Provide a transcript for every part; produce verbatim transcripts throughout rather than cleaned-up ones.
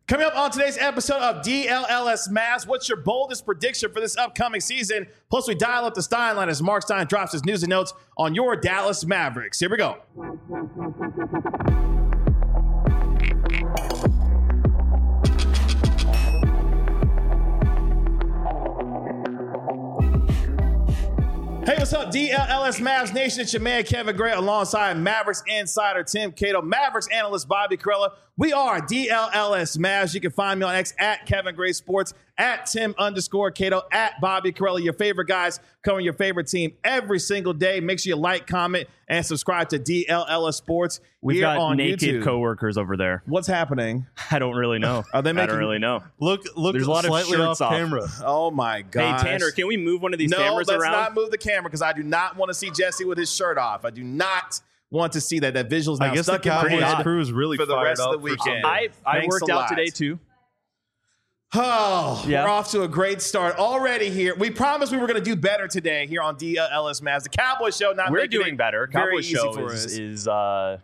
Coming up on today's episode of D L L S Mavs, what's your boldest prediction for this upcoming season? Plus, we dial up the Stein line as Mark Stein drops his news and notes on your Dallas Mavericks. Here we go. Hey, what's up, D L L S Mavs Nation? It's your man, Kevin Gray, alongside Mavericks insider Tim Cato, Mavericks analyst Bobby Karalla. We are D L L S Mavs. You can find me on X at Kevin Gray Sports, at Tim underscore Cato, at Bobby Karalla. Your favorite guys covering your favorite team every single day. Make sure you like, comment, and subscribe to D L L S Sports. We've here got on naked YouTube. coworkers over there. What's happening? I don't really know. Are they making? I don't really know. Look, look. There's a lot of slightly shirts off off. camera. Oh my god! Hey Tanner, can we move one of these no, cameras let's around? not move the camera because I do not want to see Jesse with his shirt off. I do not want to see that. That visual's now I guess stuck the in my Cowboys head crew is really for the fired rest of up the for weekend. Sunday. I I Thanks worked a out lot. today too. Oh, Yeah. we're off to a great start already here. We promised we were going to do better today here on D L L S Mavs. The Cowboys show not We're making doing it better. very Cowboy easy show for is, us. is uh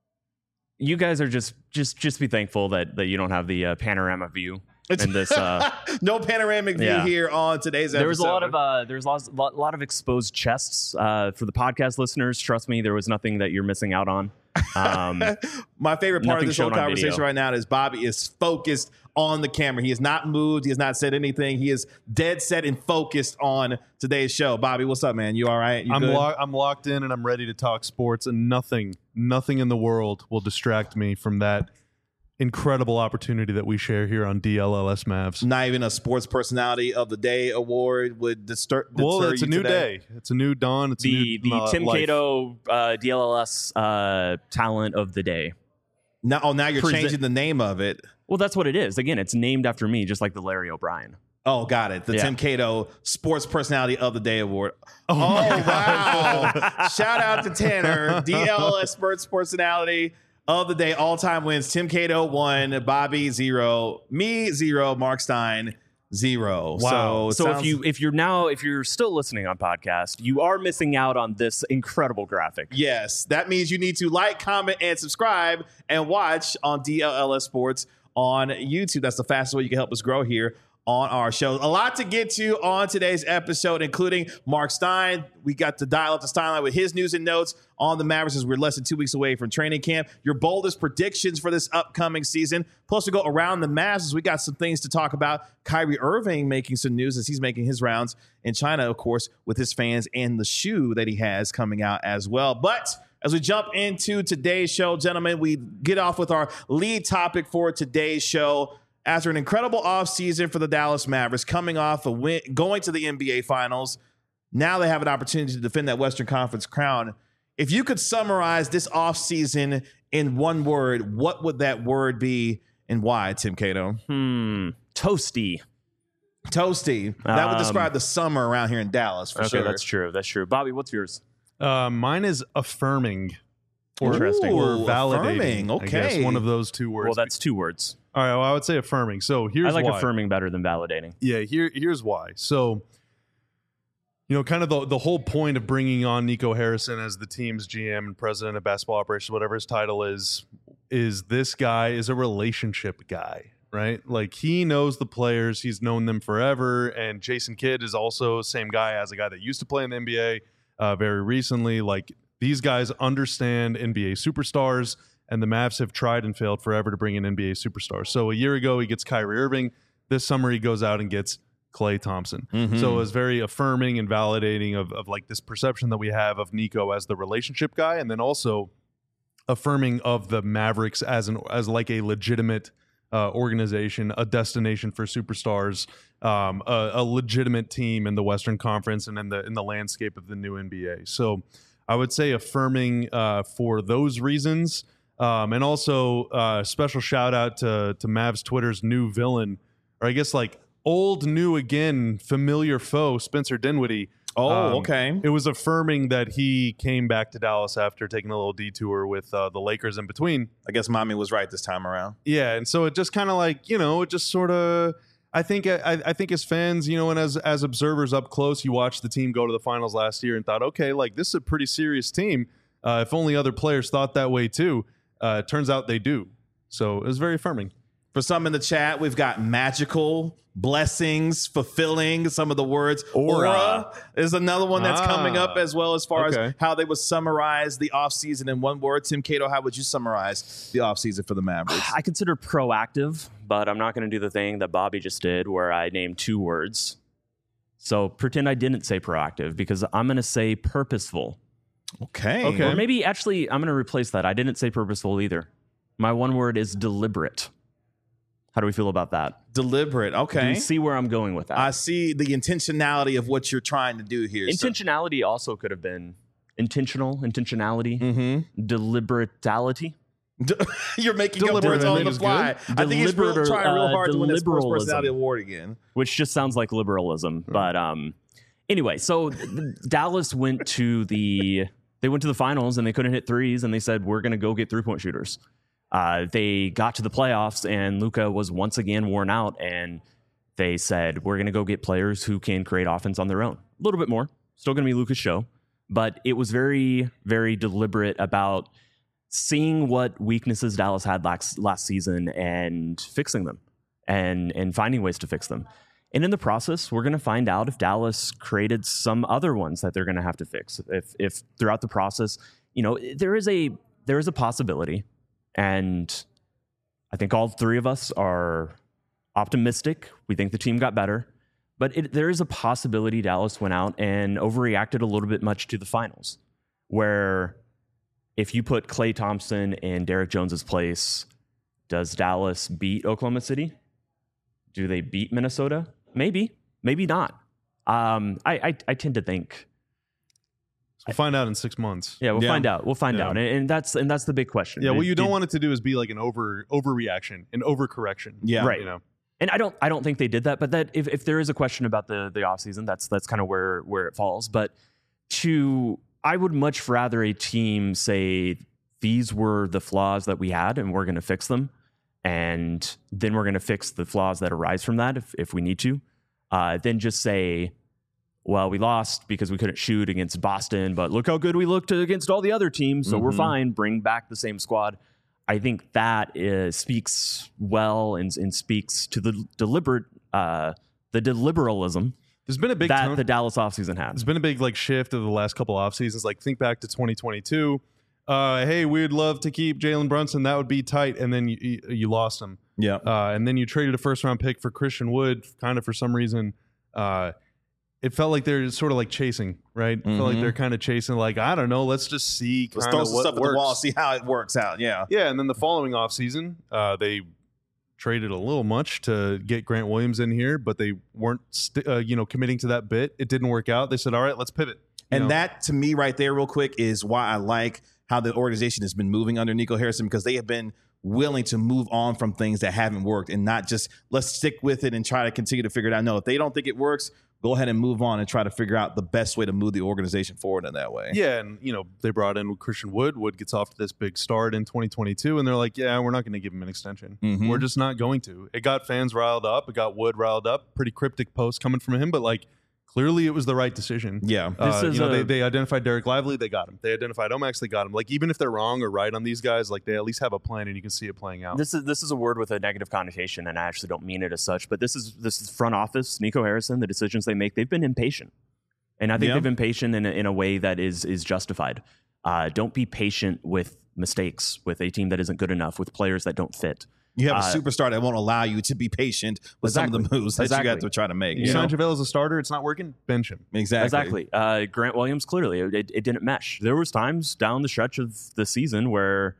you guys are just just just be thankful that that you don't have the uh, panorama view in this uh no panoramic view Yeah. here on today's episode. there was a lot of uh there's lots a lot, lot of exposed chests uh for the podcast listeners. Trust me, there was nothing that you're missing out on. Um My favorite part of Nothing this whole shown on conversation video. right now is Bobby is focused on the camera. He has not moved. He has not said anything. He is dead set and focused on today's show. Bobby, what's up, man? You all right? You I'm good? lo- I'm locked in and I'm ready to talk sports, and nothing, nothing in the world will distract me from that incredible opportunity that we share here on D L L S Mavs. Not even a Sports Personality of the Day award would distur- deter Well, it's you a new today? day. It's a new dawn. It's a the new the uh, Tim life. Cato uh D L L S uh talent of the day. Now, oh, now you're Present- changing the name of it. Well, that's what it is. Again, it's named after me, just like the Larry O'Brien. Oh, got it. The Yeah. Tim Cato Sports Personality of the Day award. Oh, Oh, my wow. Shout out to Tanner, D L L S Sports Personality of the Day, all-time wins. Tim Cato one, Bobby zero, me zero, Mark Stein zero. Wow. So, So sounds- if you if you're now if you're still listening on podcast, you are missing out on this incredible graphic. Yes, that means you need to like, comment, and subscribe and watch on D L L S Sports on YouTube. That's the fastest way you can help us grow here on our show. A lot to get to on today's episode, including Mark Stein. We got to dial up the Stein line with his news and notes on the Mavericks as we're less than two weeks away from training camp. Your boldest predictions for this upcoming season. Plus, we go around the Mavs as we got some things to talk about. Kyrie Irving making some news as he's making his rounds in China, of course, with his fans and the shoe that he has coming out as well. But as we jump into today's show, gentlemen, we get off with our lead topic for today's show. After an incredible offseason for the Dallas Mavericks, coming off a win, going to the N B A Finals, now they have an opportunity to defend that Western Conference crown. If you could summarize this offseason in one word, what would that word be and why, Tim Cato? Hmm. Toasty. Toasty. That would Um, describe the summer around here in Dallas, for Okay, sure. that's true. That's true. Bobby, what's yours? Uh, mine is affirming. Or, Interesting. Or Ooh, validating. affirming. I guess Okay. one of those two words. Well, that's two words. All right. Well, I would say affirming. So here's I like why. affirming better than validating. Yeah, here here's why. So, you know, kind of the, the whole point of bringing on Nico Harrison as the team's G M and president of basketball operations, whatever his title is, is this guy is a relationship guy, right? Like he knows the players, he's known them forever, and Jason Kidd is also the same guy as a guy that used to play in the N B A uh, very recently. Like these guys understand N B A superstars, and the Mavs have tried and failed forever to bring in N B A superstars. So a year ago, he gets Kyrie Irving. This summer, he goes out and gets Klay Thompson. Mhm. So it was very affirming and validating of, of like this perception that we have of Nico as the relationship guy, and then also affirming of the Mavericks as an as like a legitimate uh, organization, a destination for superstars, um, a, a legitimate team in the Western Conference and in the in the landscape of the new N B A. So I would say affirming uh, for those reasons. Um, and also uh, special shout out to, to Mavs Twitter's new villain, or I guess like old, new again, familiar foe, Spencer Dinwiddie. Oh, Um, okay. It was affirming that he came back to Dallas after taking a little detour with uh, the Lakers in between. I guess mommy was right this time around. Yeah, and so it just kind of like, you know, it just sort of, I think, I, I think as fans, you know, and as as observers up close, you watched the team go to the finals last year and thought, okay, like this is a pretty serious team. Uh, if only other players thought that way too. Uh, it turns out they do. So it was very affirming. For some in the chat, we've got magical, blessings, fulfilling, some of the words. Aura. Aura is another one that's Ah, coming up, as well as far okay. as how they would summarize the offseason in one word. Tim Cato, how would you summarize the offseason for the Mavericks? I consider proactive, but I'm not going to do the thing that Bobby just did where I named two words. So pretend I didn't say proactive because I'm going to say purposeful. Okay. Okay. Or maybe actually I'm going to replace that. I didn't say purposeful either. My one word is deliberate. How do we feel about that? Deliberate. Do Okay. you see where I'm going with that? I see the intentionality of what you're trying to do here. so- Intentionality also could have been intentional, intentionality, Mhm. deliberatality. You're making up Deliberate, words I on think the is fly. good. I think he's real, Deliberate, trying real uh, hard to win this sports deliberalism. personality award again. Which just sounds like liberalism. But um, anyway, so th- Dallas went to the they went to the finals and they couldn't hit threes, and they said we're going to go get three point shooters. Uh, they got to the playoffs, and Luka was once again worn out, and they said we're going to go get players who can create offense on their own. A little bit more, still going to be Luka's show, but it was very, very deliberate about seeing what weaknesses Dallas had last last season and fixing them. And, and finding ways to fix them. And in the process, we're going to find out if Dallas created some other ones that they're going to have to fix. If, if throughout the process, you know, there is a there is a possibility, and I think all three of us are optimistic. We think the team got better, but it, there is a possibility Dallas went out and overreacted a little bit much to the finals, where if you put Klay Thompson in Derek Jones's place, does Dallas beat Oklahoma City? Do they beat Minnesota? Maybe, maybe not. Um, I, I I tend to think. So we'll find out in six months. Yeah, we'll Yeah. find out. We'll find Yeah. out, and, and that's and that's the big question. Yeah, what Did- you don't did- want it to do is be like an over overreaction, an overcorrection. Yeah. Right. You know. And I don't I don't think they did that. But that if, if there is a question about the the offseason, that's that's kind of where where it falls. But to I would much rather a team say these were the flaws that we had, and we're going to fix them. And then we're going to fix the flaws that arise from that if, if we need to. Uh, then just say, well, we lost because we couldn't shoot against Boston, but look how good we looked against all the other teams, so we're Mhm. fine. Bring back the same squad. I think that is, speaks well and, and speaks to the deliberate, uh, the deliberalism There's been a big that tone- the Dallas offseason had. There's been a big like shift of the last couple off seasons. Like think back to twenty twenty-two. Uh, hey, we'd love to keep Jalen Brunson. That would be tight. And then you, you, you lost him. Yeah. Uh, and then you traded a first round pick for Christian Wood, kind of for some reason. Uh, it felt like they're sort of like chasing, right? It felt like Mhm. they're kind of chasing, like, I don't know, let's just see Let's kind throw of some what stuff at works. the wall, see how it works out. Yeah. Yeah, and then the following offseason, uh, they traded a little much to get Grant Williams in here, but they weren't, st- uh, you know, committing to that bit. It didn't work out. They said, all right, let's pivot. You And know? that, to me, right there, real quick, is why I like how the organization has been moving under Nico Harrison, because they have been willing to move on from things that haven't worked and not just let's stick with it and try to continue to figure it out. No, if they don't think it works, go ahead and move on and try to figure out the best way to move the organization forward in that way. Yeah, and you know they brought in Christian Wood. Wood gets off to this big start in twenty twenty-two, and they're like, "Yeah, we're not going to give him an extension. Mhm. We're just not going to." It got fans riled up. It got Wood riled up. Pretty cryptic post coming from him, but like clearly it was the right decision. Yeah. Uh, This is you know, a- they, they identified Derek Lively, they got him. They identified Omax, they got him. Like even if they're wrong or right on these guys, like they at least have a plan, and you can see it playing out. This is this is a word with a negative connotation, and I actually don't mean it as such. But this is this is front office, Nico Harrison. The decisions they make, they've been impatient, and I think Yeah. they've been patient in a, in a way that is is justified. Uh, don't be patient with mistakes, with a team that isn't good enough, with players that don't fit. You have a Uh, superstar that won't allow you to be patient with some of the Exactly. moves that you got Exactly. to try to make. you You know? sign JaVale as a starter, it's not working. Bench him. Exactly. Exactly. Uh, Grant Williams, clearly, it, it, it didn't mesh. There was times down the stretch of the season where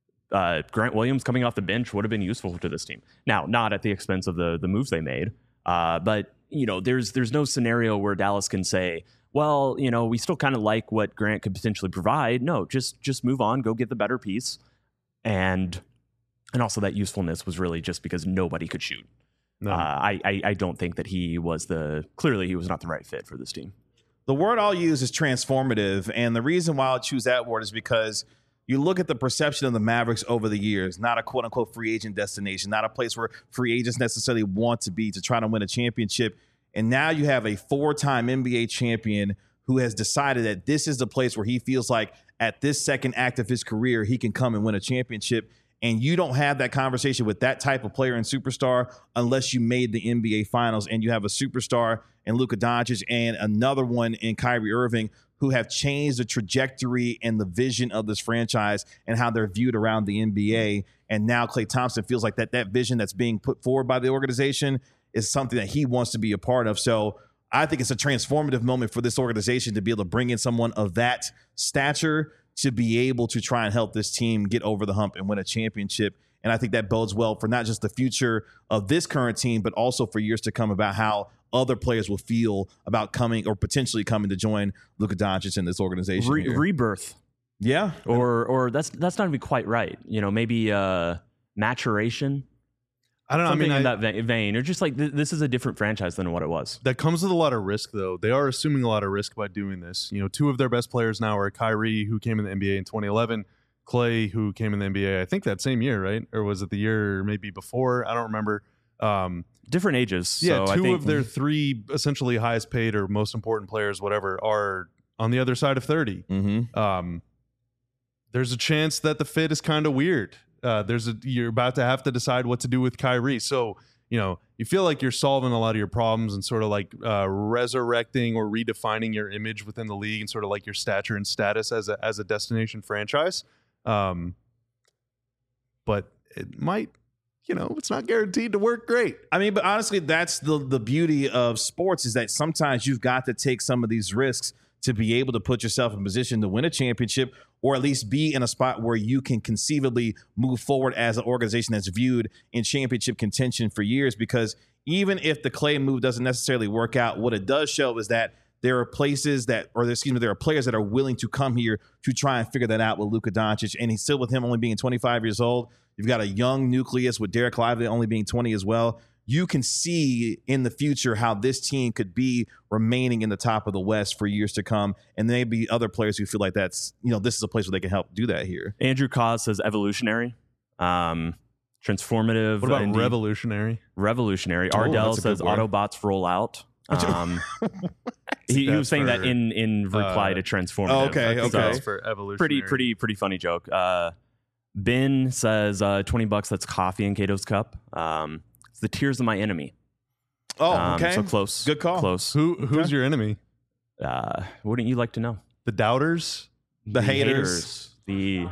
uh, Grant Williams coming off the bench would have been useful to this team. Now, not at the expense of the the moves they made, uh, but you know, there's there's no scenario where Dallas can say, well, you know, we still kind of like what Grant could potentially provide. No, just just move on, go get the better piece, and and also that usefulness was really just because nobody could shoot. No. Uh, I, I I don't think that he was the clearly he was not the right fit for this team. The word I'll use is transformative. And the reason why I'll choose that word is because you look at the perception of the Mavericks over the years, not a quote unquote free agent destination, not a place where free agents necessarily want to be to try to win a championship. And now you have a four-time N B A champion who has decided that this is the place where he feels like at this second act of his career, he can come and win a championship. And you don't have that conversation with that type of player and superstar unless you made the N B A Finals and you have a superstar in Luka Doncic and another one in Kyrie Irving who have changed the trajectory and the vision of this franchise and how they're viewed around the N B A. And now Klay Thompson feels like that that vision that's being put forward by the organization is something that he wants to be a part of. So I think it's a transformative moment for this organization to be able to bring in someone of that stature to be able to try and help this team get over the hump and win a championship. And I think that bodes well for not just the future of this current team, but also for years to come about how other players will feel about coming or potentially coming to join Luka Doncic in this organization. Re- here. Rebirth. Yeah. Or or that's that's not even quite right. You know, maybe uh, maturation. I don't know. Something I mean, in I, that vein, vein, or just like th- this is a different franchise than what it was. that comes with a lot of risk, though. They are assuming a lot of risk by doing this. You know, two of their best players now are Kyrie, who came in the N B A in twenty eleven, Klay, who came in the N B A, I think that same year, right? Or was it the year maybe before? I don't remember. Um, Different ages. yeah, so two I think, of their three essentially highest paid or most important players, whatever, are on the other side of thirty. Mm-hmm. Um, there's a chance that the fit is kind of weird. Uh, there's a you're about to have to decide what to do with Kyrie. So, you know, you feel like you're solving a lot of your problems and sort of like uh, resurrecting or redefining your image within the league and sort of like your stature and status as a as a destination franchise. Um, but it might, you know, it's not guaranteed to work great. I mean, but honestly, that's the the beauty of sports is that sometimes you've got to take some of these risks to be able to put yourself in position to win a championship or at least be in a spot where you can conceivably move forward as an organization that's viewed in championship contention for years. Because even if the Klay move doesn't necessarily work out, what it does show is that there are places that, or excuse me, there are players that are willing to come here to try and figure that out with Luka Doncic. And he's still with him only being twenty-five years old. You've got a young nucleus with Derek Lively only being twenty as well. You can see in the future how this team could be remaining in the top of the West for years to come. And there may be other players who feel like that's, you know, this is a place where they can help do that here. Andrew Cos says evolutionary, um, transformative. What about indeed. revolutionary? Revolutionary. Oh, Ardell that's a good says word. Autobots roll out. Um, he, he was That's saying that for, in in reply uh, to transformative. Oh, okay, I think okay. that's for evolutionary. Pretty pretty pretty funny joke. Uh, Ben says uh, twenty bucks. That's coffee in Cato's cup. Um, it's the tears of my enemy. Oh, Um, okay. So close. Good call. Close. Who who's your enemy? Uh, wouldn't you like to know? The doubters? The, haters. The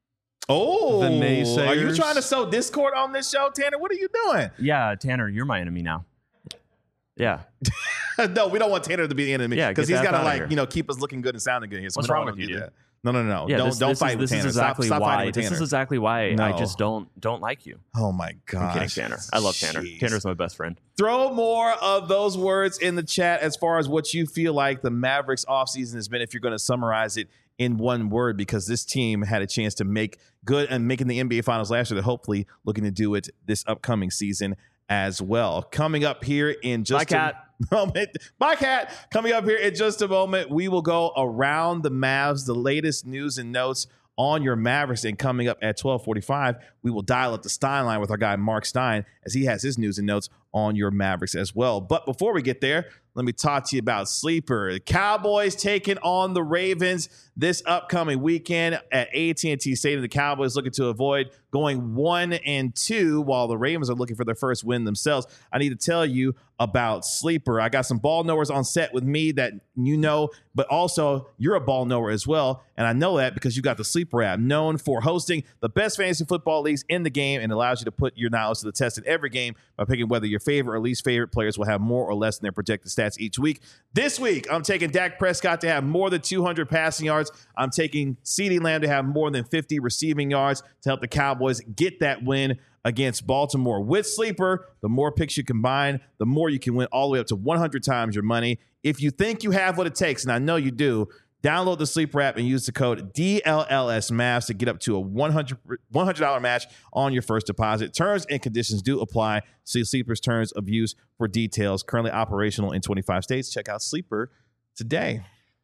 Oh, The are you naysayers? trying to sow discord on this show, Tanner? What are you doing? yeah, Tanner, you're my enemy now. Yeah. No, we don't want Tanner to be the enemy. Yeah, because get he's the got to F outta like here. you know keep us looking good and sounding good here. So What's we don't wrong want with to you, do dude? that. No, no, no, Yeah, don't this, don't this fight is, with this Tanner. is exactly stop, stop fighting why. with This Tanner. is exactly why No. I just don't don't like you. Oh my I'm gosh. kidding, Tanner. I love Tanner. Jeez. Tanner's my best friend. Throw more of those words in the chat as far as what you feel like the Mavericks offseason has been if you're going to summarize it in one word, because this team had a chance to make good and making the N B A Finals last year. They're hopefully looking to do it this upcoming season as well. Coming up here in just Bye, Cat. a moment. Bye, Cat. Coming up here in just a moment, we will go around the Mavs, the latest news and notes on your Mavericks. And coming up at twelve forty-five, we will dial up the Stein line with our guy Mark Stein as he has his news and notes on your Mavericks as well. But before we get there, let me talk to you about Sleeper. The Cowboys taking on the Ravens this upcoming weekend at A T and T Stadium. The Cowboys looking to avoid going one and two while the Ravens are looking for their first win themselves. I need to tell you about Sleeper. I got some ball knowers on set with me that you know, but also you're a ball knower as well. And I know that because you got the Sleeper app, known for hosting the best fantasy football leagues in the game, and allows you to put your knowledge to the test in every game by picking whether your favorite or least favorite players will have more or less in their projected stats each week. This week, I'm taking Dak Prescott to have more than two hundred passing yards. I'm taking CeeDee Lamb to have more than fifty receiving yards to help the Cowboys get that win against Baltimore. With Sleeper, the more picks you combine, the more you can win, all the way up to one hundred times your money. If you think you have what it takes, and I know you do, download the Sleeper app and use the code D L L S Mavs to get up to a one hundred dollars match on your first deposit. Terms and conditions do apply. See Sleeper's terms of use for details. Currently operational in twenty-five states. Check out Sleeper today.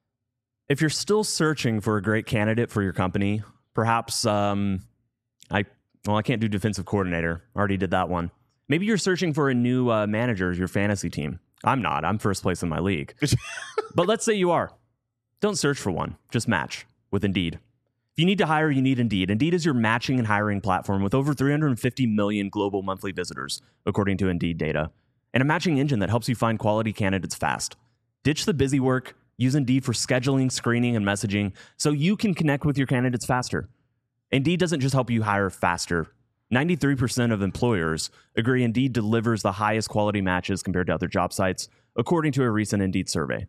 If you're still searching for a great candidate for your company, perhaps um, I well, I can't do defensive coordinator. Already did that one. Maybe you're searching for a new uh, manager of your fantasy team. I'm not. I'm first place in my league. But let's say you are. Don't search for one. Just match with Indeed. If you need to hire, you need Indeed. Indeed is your matching and hiring platform with over three hundred fifty million global monthly visitors, according to Indeed data, and a matching engine that helps you find quality candidates fast. Ditch the busy work. Use Indeed for scheduling, screening, and messaging so you can connect with your candidates faster. Indeed doesn't just help you hire faster. ninety-three percent of employers agree Indeed delivers the highest quality matches compared to other job sites, according to a recent Indeed survey.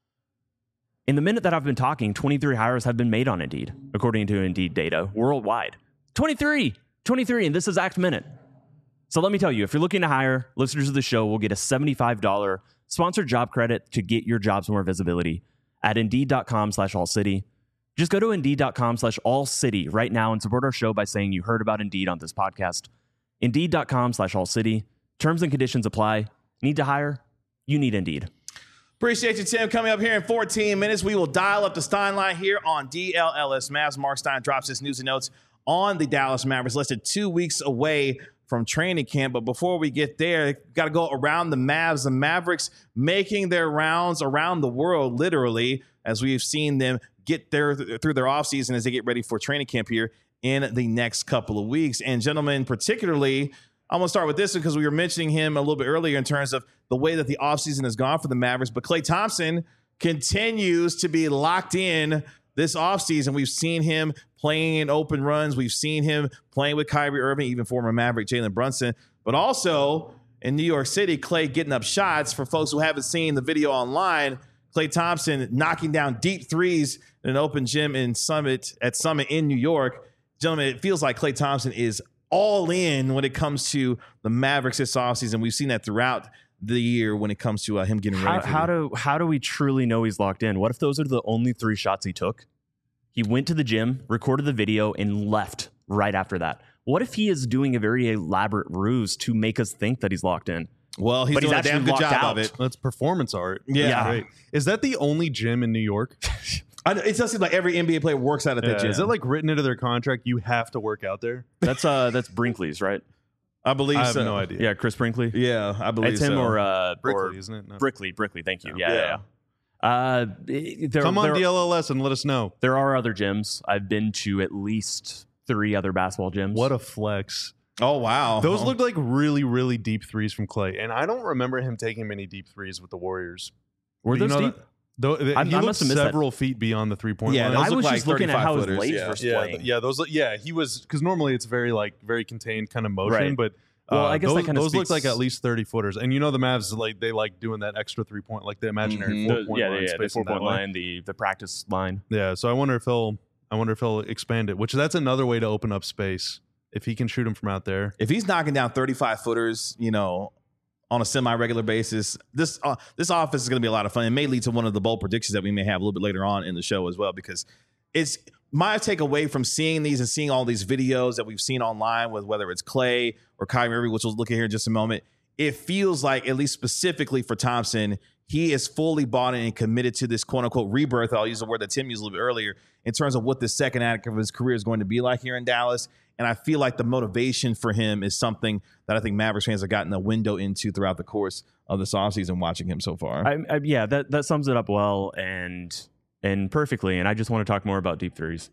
In the minute that I've been talking, twenty-three hires have been made on Indeed, according to Indeed data worldwide. twenty-three! twenty-three in this exact minute. So let me tell you, if you're looking to hire, listeners of the show will get a seventy-five dollars sponsored job credit to get your jobs more visibility at Indeed.com slash All City. Just go to Indeed.com slash All City right now and support our show by saying you heard about Indeed on this podcast. Indeed.com slash All City. Terms and conditions apply. Need to hire? You need Indeed. Appreciate you, Tim. Coming up here in fourteen minutes, we will dial up the Stein line here on D L L S Mavs. Mark Stein drops his news and notes on the Dallas Mavericks, less than two weeks away from training camp. But before we get there, got to go around the Mavs. The Mavericks making their rounds around the world, literally, as we've seen them get there through their offseason as they get ready for training camp here in the next couple of weeks. And gentlemen, particularly, I'm going to start with this because we were mentioning him a little bit earlier in terms of the way that the offseason has gone for the Mavericks. But Klay Thompson continues to be locked in this offseason. We've seen him playing in open runs. We've seen him playing with Kyrie Irving, even former Maverick Jalen Brunson. But also in New York City, Klay getting up shots. For folks who haven't seen the video online, Klay Thompson knocking down deep threes in an open gym in Summit at Summit in New York. Gentlemen, it feels like Klay Thompson is all in when it comes to the Mavericks this offseason. We've seen that throughout the year when it comes to uh, him getting ready. How, for how the- do how do we truly know he's locked in? What if those are the only three shots he took? He went to the gym, recorded the video, and left right after that. What if he is doing a very elaborate ruse to make us think that he's locked in? Well, he's But he's doing a actually damn good locked job out. of it. That's performance art. Yeah. Yeah. Great. Is that the only gym in New York? I know, it does seem like every N B A player works out at that Yeah. gym. Is it like written into their contract? You have to work out there. That's uh that's Brinkley's, right? I believe I have so. no idea. Yeah, Chris Brinkley. Yeah, I believe It's him so. or uh Brickley, or isn't it? No. Brickley, Brickley. Thank you. Yeah. Yeah, yeah. yeah. Uh, there, Come on there, D L L S and let us know. there are other gyms. I've been to at least three other basketball gyms. What a flex. Oh, wow. Those looked like really, really deep threes from Klay. And I don't remember him taking many deep threes with the Warriors. were Do you those know deep? that- Though, I- he I looked must have missed that. several feet beyond the three-point Yeah, line. those I look was like just looking at how his thirty-five legs footers, were yeah, playing. th- yeah, those. Yeah, he was because normally it's very like very contained kind of motion, Right. but Well, uh, I guess that those, kinda those looked speaks- like at least thirty footers. And you know the Mavs like they like doing that extra three point, like the imaginary Mhm. four The- point yeah, line, yeah, yeah, the spacing four point that way. line, the the practice line. Yeah, so I wonder if he'll, I wonder if he'll expand it. Which that's another way to open up space if he can shoot him from out there. If he's knocking down thirty-five footers, you know, on a semi-regular basis, this uh, this offense is going to be a lot of fun. It may lead to one of the bold predictions that we may have a little bit later on in the show as well, because it's my takeaway from seeing these and seeing all these videos that we've seen online with whether it's Klay or Kyrie Irving, which we'll look at here in just a moment. It feels like, at least specifically for Thompson, he is fully bought in and committed to this quote-unquote rebirth. I'll use the word that Tim used a little bit earlier in terms of what the second act of his career is going to be like here in Dallas. And I feel like the motivation for him is something that I think Mavericks fans have gotten a window into throughout the course of this offseason watching him so far. I, I, yeah, that that sums it up well and and perfectly. And I just want to talk more about deep threes,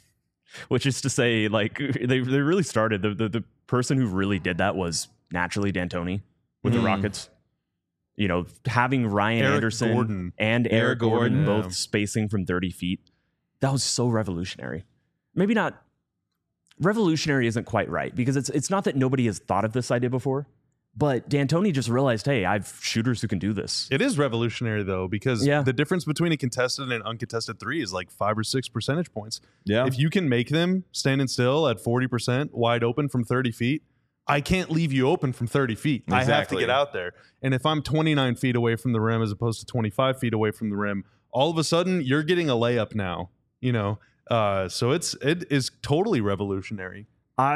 which is to say, like they they really started the the, the person who really did that was naturally D'Antoni with Mhm. the Rockets. You know, having Ryan Eric Anderson Gordon. and Eric, Eric Gordon, Gordon, yeah. both spacing from thirty feet, that was so revolutionary. Maybe not revolutionary isn't quite right, because it's it's not that nobody has thought of this idea before, but D'Antoni just realized, hey, I've shooters who can do this. It is revolutionary though, because Yeah. the difference between a contested and uncontested three is like five or six percentage points. yeah. If you can make them standing still at forty percent wide open from thirty feet, I can't leave you open from thirty feet. I have to Exactly. get out there. And if I'm twenty-nine feet away from the rim as opposed to twenty-five feet away from the rim, all of a sudden you're getting a layup now, you know? Uh, so it's, it is totally revolutionary.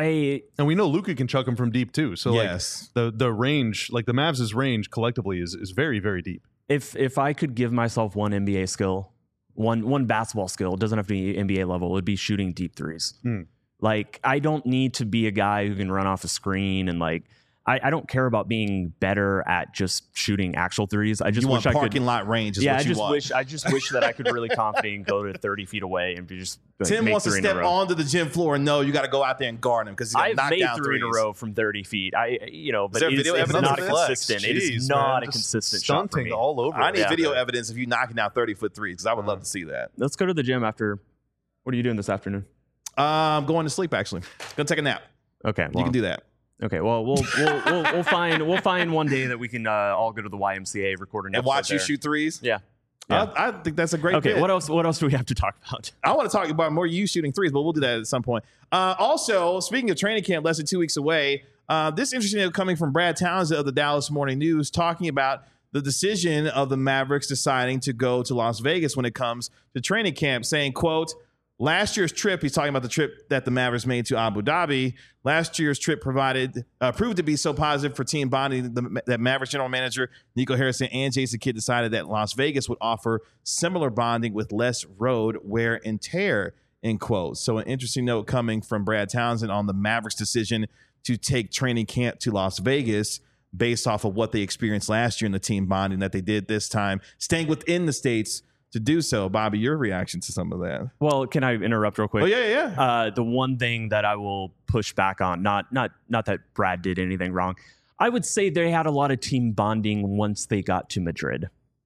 I And we know Luka can chuck them from deep too. So yes. like the, the range, like the Mavs' range collectively is, is very, very deep. if if I could give myself one N B A skill, one one basketball skill, it doesn't have to be N B A level, it'd be shooting deep threes. Hmm. Like I don't need to be a guy who can run off a screen and like I, I don't care about being better at just shooting actual threes. I just You wish want I parking could. lot range is Yeah, what I you just want. wish I just wish that I could really confidently go to thirty feet away and be just. Like, Tim make wants to three in a step row. onto the gym floor and know you got to go out there and guard him because he's going to I've knock made down three in a threes. row from thirty feet. I, you know, but there it's, video it's evidence not of this? consistent. it is Jeez, not man, a just consistent shot for stunting me. all over. I need it. video Yeah. evidence of you knocking down thirty foot threes because I would love to see that. Let's go to the gym after. What are you doing this afternoon? Uh, I'm going to sleep actually. Gonna take a nap. Okay, You well, can do that. Okay, well, we'll we'll we'll, we'll find we'll find one day that we can uh, all go to the Y M C A, record an And episode watch you there. shoot threes. Yeah. Yeah. I, I think that's a great. Okay. bit. What else? What else do we have to talk about? I want to talk about more you shooting threes, but we'll do that at some point. Uh, also, speaking of training camp, less than two weeks away, uh, this interesting note coming from Brad Townsend of the Dallas Morning News talking about the decision of the Mavericks deciding to go to Las Vegas when it comes to training camp, saying, quote, last year's trip, he's talking about the trip that the Mavericks made to Abu Dhabi. Last year's trip provided uh, proved to be so positive for team bonding the, that Mavericks general manager Nico Harrison and Jason Kidd decided that Las Vegas would offer similar bonding with less road wear and tear, end quote. So an interesting note coming from Brad Townsend on the Mavericks' decision to take training camp to Las Vegas based off of what they experienced last year in the team bonding that they did this time, staying within the States to do so. Bobby, your reaction to some of that? Well, can I interrupt real quick? Oh, yeah, yeah, yeah. Uh, the one thing that I will push back on, not not not that Brad did anything wrong, I would say they had a lot of team bonding once they got to Madrid.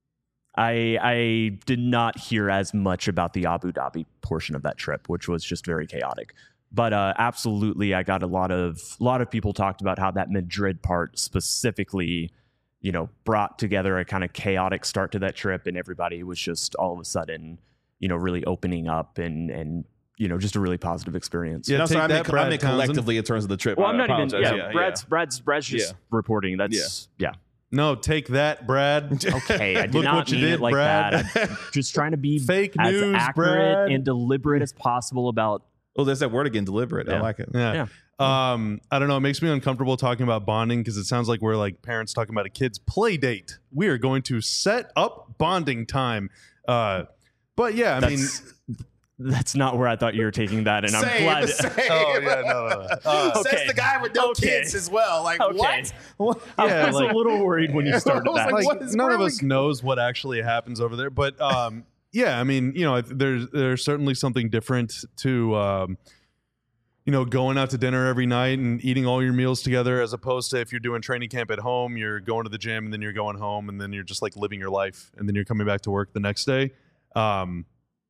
I I did not hear as much about the Abu Dhabi portion of that trip, which was just very chaotic. But uh, absolutely, I got a lot of a lot of people talked about how that Madrid part specifically, you know, brought together a kind of chaotic start to that trip, and everybody was just all of a sudden, you know, really opening up and and you know, just a really positive experience. Yeah, No, take so I that, meant, I Brad meant Townsend. collectively in terms of the trip. Well, I I'm not even. apologize. Yeah, Brad's Brad's Brad's just Yeah. reporting. That's yeah. No, take that, Brad. Okay, I did Look not what you mean did, it like Brad. that. I'm just trying to be Fake as news, accurate Brad. and deliberate as possible about. Oh, there's that word again, deliberate. I Yeah. like it. Yeah. Um, I don't know. It makes me uncomfortable talking about bonding because it sounds like we're like parents talking about a kid's play date. We are going to set up bonding time. Uh, but yeah, I mean, That's, that's not where I thought you were taking that, and I'm Same, glad. same. oh yeah, no, no, no. Uh, Says Okay. the guy with no Okay. kids as well. Like, Okay. what? what? I Yeah, was like- a little worried when you started I was that. like, like what is none of really- us knows what actually happens over there, but um, yeah, I mean, you know, there's there's certainly something different to um, you know, going out to dinner every night and eating all your meals together, as opposed to if you're doing training camp at home, you're going to the gym and then you're going home and then you're just like living your life and then you're coming back to work the next day. Um,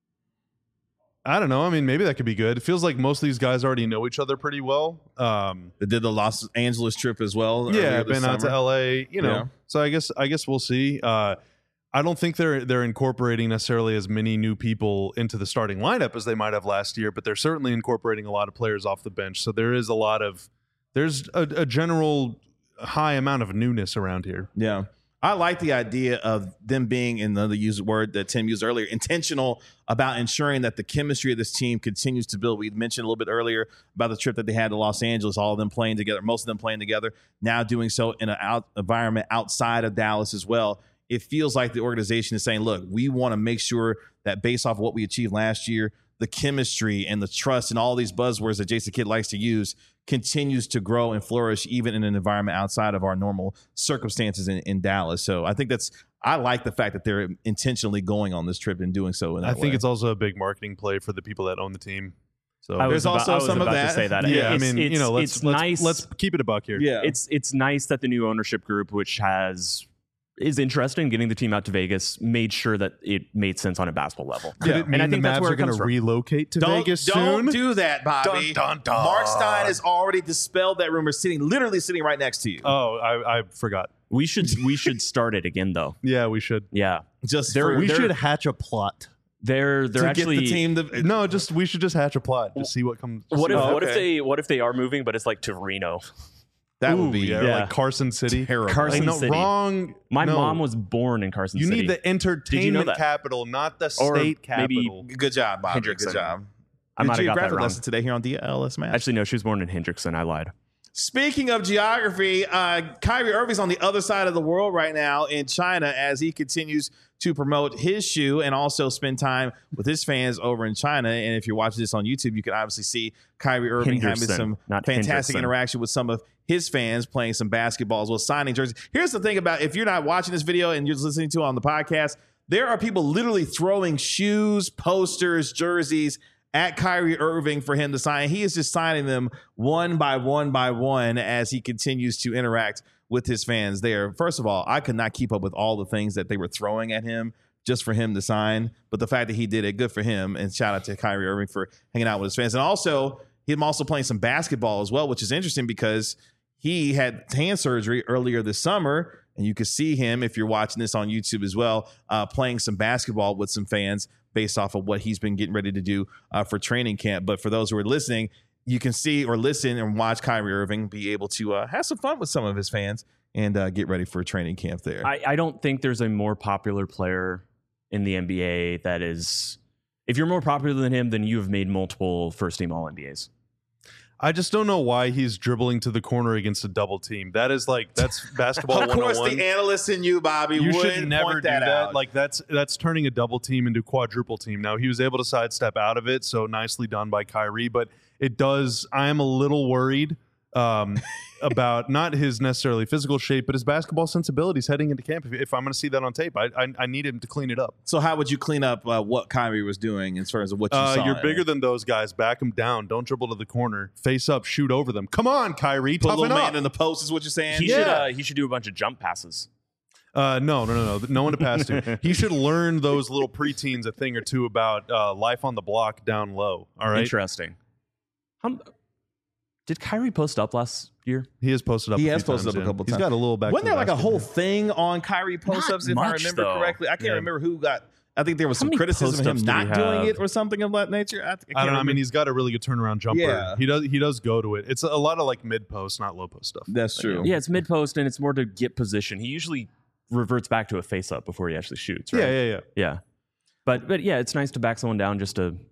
I don't know. I mean, maybe that could be good. It feels like most of these guys already know each other pretty well. Um, They did the Los Angeles trip as well. yeah, earlier I've this been out to summer. L A, you know. Yeah. So I guess I guess we'll see. Uh, I don't think they're they're incorporating necessarily as many new people into the starting lineup as they might have last year, but they're certainly incorporating a lot of players off the bench. So there is a lot of there's a, a general high amount of newness around here. Yeah. I like the idea of them being, in another use word that Tim used earlier, intentional about ensuring that the chemistry of this team continues to build. We mentioned a little bit earlier about the trip that they had to Los Angeles, all of them playing together, most of them playing together, now doing so in an out environment outside of Dallas as well. It feels like the organization is saying, look, we want to make sure that based off of what we achieved last year, the chemistry and the trust and all these buzzwords that Jason Kidd likes to use continues to grow and flourish even in an environment outside of our normal circumstances in, in Dallas. So I think that's, I like the fact that they're intentionally going on this trip and doing so in that I think way. it's also a big marketing play for the people that own the team. So I was There's about, also I was some of about that. to say that. yeah, It's- I mean, you it's- know, let's it's let's, nice. let's keep it a buck here. yeah. It's it's nice that the new ownership group, which has is interested in getting the team out to Vegas, made sure that it made sense on a basketball level. Could Yeah. it mean And I the think that's Mavs where are it comes going to from. relocate to Don't, Vegas don't soon? do that, Bobby. Dun, dun, dun. Mark Stein has already dispelled that rumor, sitting literally sitting right next to you. Oh, I, I forgot. We should we should start it again though. Yeah, we should. Yeah, Just There- for, We they're- should hatch a plot. they're they're to actually get the team to No, just we should just hatch a plot. Just see what comes. just What see if Oh, what if okay. they what if they are moving, but it's like to Reno? that Ooh, would be yeah, yeah. like Carson City. terrible. Carson Like, no, City. wrong. My no. mom was born in Carson You City. need the entertainment that? capital, not the Or state maybe- capital. Good job, Bobby. Hendrickson. Good job. I Good might have got that geographic wrong. lesson today here on D L S Match. Actually, no, she was born in Hendrickson. I lied. Speaking of geography, uh, Kyrie Irving's on the other side of the world right now in China as he continues to promote his shoe and also spend time with his fans over in China. And if you're watching this on YouTube, you can obviously see Kyrie Irving having Henderson, some not fantastic Hendrickson. interaction with some of his fans playing some basketball as well, signing jerseys. Here's the thing about if you're not watching this video and you're just listening to it on the podcast, there are people literally throwing shoes, posters, jerseys at Kyrie Irving for him to sign. He is just signing them one by one by one as he continues to interact with his fans there. First of all, I could not keep up with all the things that they were throwing at him just for him to sign. But the fact that he did it, good for him. And shout out to Kyrie Irving for hanging out with his fans. And also, him also playing some basketball as well, which is interesting because he had hand surgery earlier this summer. And you can see him, if you're watching this on YouTube as well, uh, playing some basketball with some fans based off of what he's been getting ready to do uh, for training camp. But for those who are listening, you can see or listen and watch Kyrie Irving be able to uh, have some fun with some of his fans and uh, get ready for training camp there. I, I don't think there's a more popular player in the N B A that is, if you're more popular than him, then you have made multiple first team All N B As. I just don't know why he's dribbling to the corner against a double team. That is like, that's basketball Of course, one oh one. the analyst in you, Bobby, You would should never point do that, that. out. Like that's that's turning a double team into quadruple team. Now he was able to sidestep out of it, so nicely done by Kyrie. But it does. I am a little worried um, about not his necessarily physical shape, but his basketball sensibilities heading into camp. If, if I'm going to see that on tape, I, I I need him to clean it up. So how would you clean up uh, what Kyrie was doing in terms of what you Uh, saw? you're bigger than those guys. Back them down. Don't dribble to the corner. Face up. Shoot over them. Come on, Kyrie. Put a Toughen little up. man in the post is what you're saying? He Yeah. should uh, he should do a bunch of jump passes. Uh, no, no, no, no. No one to pass to. He should learn those little preteens a thing or two about uh, life on the block down low. All right. Interesting. How, did Kyrie post up last year? He has posted up. He a has few posted times, up a yeah. couple He's times. got a little back. Wasn't to there the like a basket whole here. thing on Kyrie post-ups, Not if I much, remember though. correctly? I can't Yeah. remember who got. I think there was How some many criticism of him post-ups do we not doing have? it or something of that nature. I, I, can't I don't know. I remember. mean, he's got a really good turnaround jumper. Yeah. He does. He does go to it. It's a lot of like mid post, not low post stuff. That's true. Yeah, it's mid post and it's more to get position. He usually reverts back to a face up before he actually shoots. Right? Yeah, yeah, yeah. yeah. But but yeah, it's nice to back someone down just to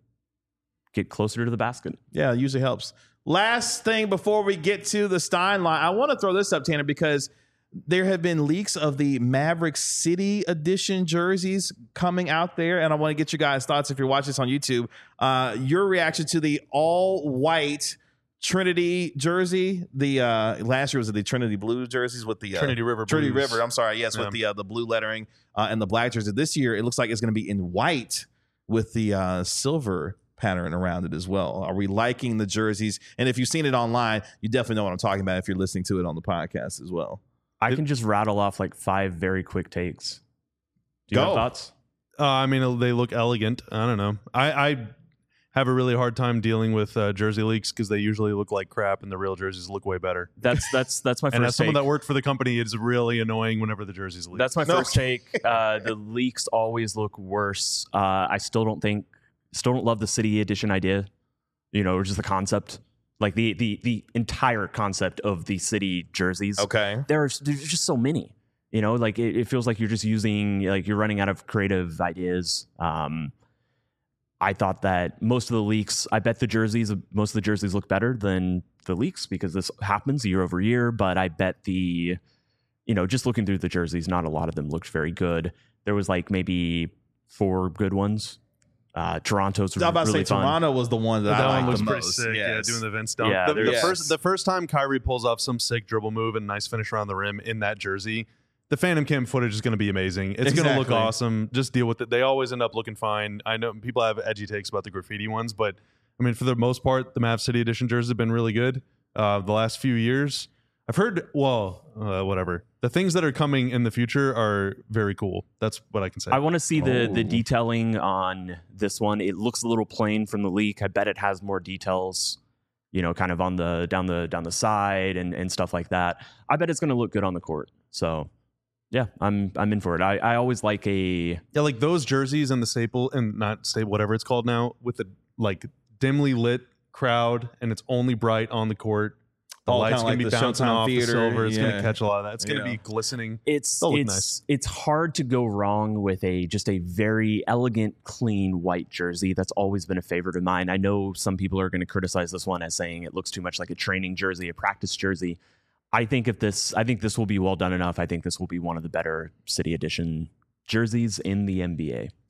get closer to the basket. Yeah, it usually helps. Last thing before we get to the Stein line, I want to throw this up, Tanner, because there have been leaks of the Maverick City Edition jerseys coming out there, and I want to get your guys' thoughts if you're watching this on YouTube. Uh, your reaction to the all-white Trinity jersey. The uh, last year was the Trinity Blue jerseys with the uh, Trinity River Trinity Blues. River. I'm sorry, yes, Yeah. with the uh, the blue lettering uh, and the black jersey. This year, it looks like it's going to be in white with the uh, silver pattern around it as well. Are we liking the jerseys? And if you've seen it online, you definitely know what I'm talking about if you're listening to it on the podcast as well. I can just rattle off like five very quick takes. Do you Go. have thoughts? Uh, I mean, they look elegant. I don't know. I, I have a really hard time dealing with uh, jersey leaks because they usually look like crap, and the real jerseys look way better. That's that's that's my And as first someone take. that worked for the company, it's really annoying whenever the jerseys leak. That's my No. first take. Uh, the leaks always look worse. Uh, I still don't think, still don't love the city edition idea. You know, or just the concept, like the the the entire concept of the city jerseys. Okay. There's there's just so many. You know, like it, it feels like you're just using, like you're running out of creative ideas. Um, I thought that most of the leaks, I bet the jerseys, most of the jerseys look better than the leaks because this happens year over year. But I bet the, you know, just looking through the jerseys, not a lot of them looked very good. There was like maybe four good ones. Uh, Toronto's I was about to really say fun. Toronto was the one that, that I one liked looks the pretty most. sick. Yes. Yeah, doing the Vince dunk. Yeah, the, there- the Yes. first the first time Kyrie pulls off some sick dribble move and nice finish around the rim in that jersey, the Phantom Cam footage is going to be amazing. It's going to look Exactly. awesome. Just deal with it. They always end up looking fine. I know people have edgy takes about the graffiti ones, but I mean, for the most part, the Mav City Edition jerseys have been really good. Uh, the last few years, I've heard. Well, uh, whatever. The things that are coming in the future are very cool. That's what I can say. I want to see the the Oh. detailing on this one. It looks a little plain from the leak. I bet it has more details, you know, kind of on the down the down the side and and stuff like that. I bet it's going to look good on the court. So, yeah, I'm I'm in for it. I, I always like a Yeah, like those jerseys and the staple and not staple, whatever it's called now, with the like dimly lit crowd and it's only bright on the court. The Oh, light's kinda gonna like be the bouncing Showtime off Theater, the silver. It's yeah. gonna catch a lot of that. It's gonna Yeah. be glistening. it's They'll look it's nice. it's hard to go wrong with a just a very elegant, clean white jersey. That's always been a favorite of mine. I know some people are going to criticize this one as saying it looks too much like a training jersey, a practice jersey. I think if this, I think this will be well done enough. I think this will be one of the better City Edition jerseys in the N B A.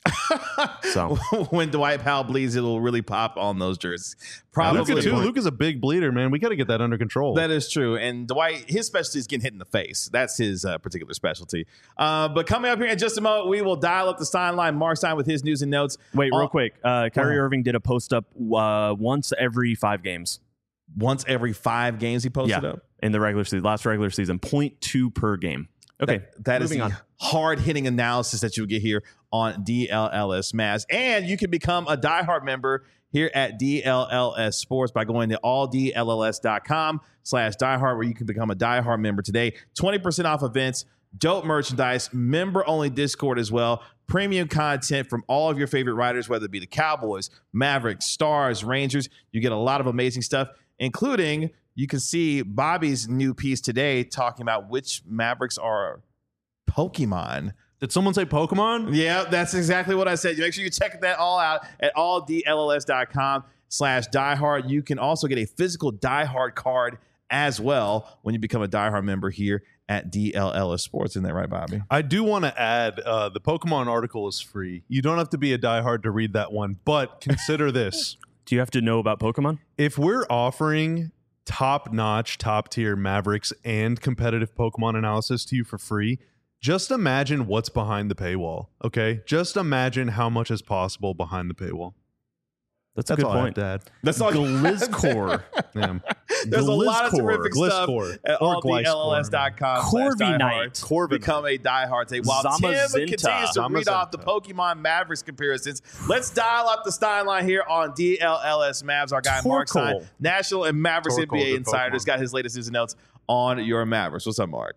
So when Dwight Powell bleeds, it'll really pop on those jerseys. Probably. Luka too. Luka's a big bleeder, man. We got to get that under control. That is true. And Dwight, his specialty is getting hit in the face. That's his uh, particular specialty. Uh, but coming up here in just a moment, we will dial up the Stein line. Mark Stein with his news and notes. wait, real on- quick. Uh, Kyrie Uh-huh. Irving did a post up uh, once every five games. Once every five games he posted Yeah, up. in the regular season, last regular season, zero point two per game. Okay, That, that is moving the on. hard-hitting analysis that you'll get here on D L L S Mavs. And you can become a diehard member here at D L L S Sports by going to all D L L S dot com slash diehard, where you can become a diehard member today. twenty percent off events, dope merchandise, member-only Discord as well, premium content from all of your favorite writers, whether it be the Cowboys, Mavericks, Stars, Rangers. You get a lot of amazing stuff, including you can see Bobby's new piece today talking about which Mavericks are Pokemon. Did someone say Pokemon? Yeah, that's exactly what I said. Make sure you check that all out at all D L L S dot com slash diehard. You can also get a physical diehard card as well when you become a diehard member here at D L L S Sports. Isn't that right, Bobby? I do want to add uh, the Pokemon article is free. You don't have to be a diehard to read that one, but consider this. Do you have to know about Pokemon? If we're offering top-notch, top-tier Mavericks and competitive Pokemon analysis to you for free, just imagine what's behind the paywall, okay? Just imagine how much is possible behind the paywall. That's a That's good all I have point. to add. That's all. Glizcore. Yeah. There's a lot of Glizcore. terrific stuff Gliscor. at Or all D L L S dot com. Corviknight. Corviknight. Become a diehard today. While Tim Zamazenta. continues to read off the Pokemon Mavericks comparisons, let's dial up the Stein line here on D L L S Mavs. Our guy Mark Stein, Torkoal. National and Mavericks Torkoal, N B A good Insider, has Pokemon. got his latest news and notes on your Mavericks. What's up, Mark?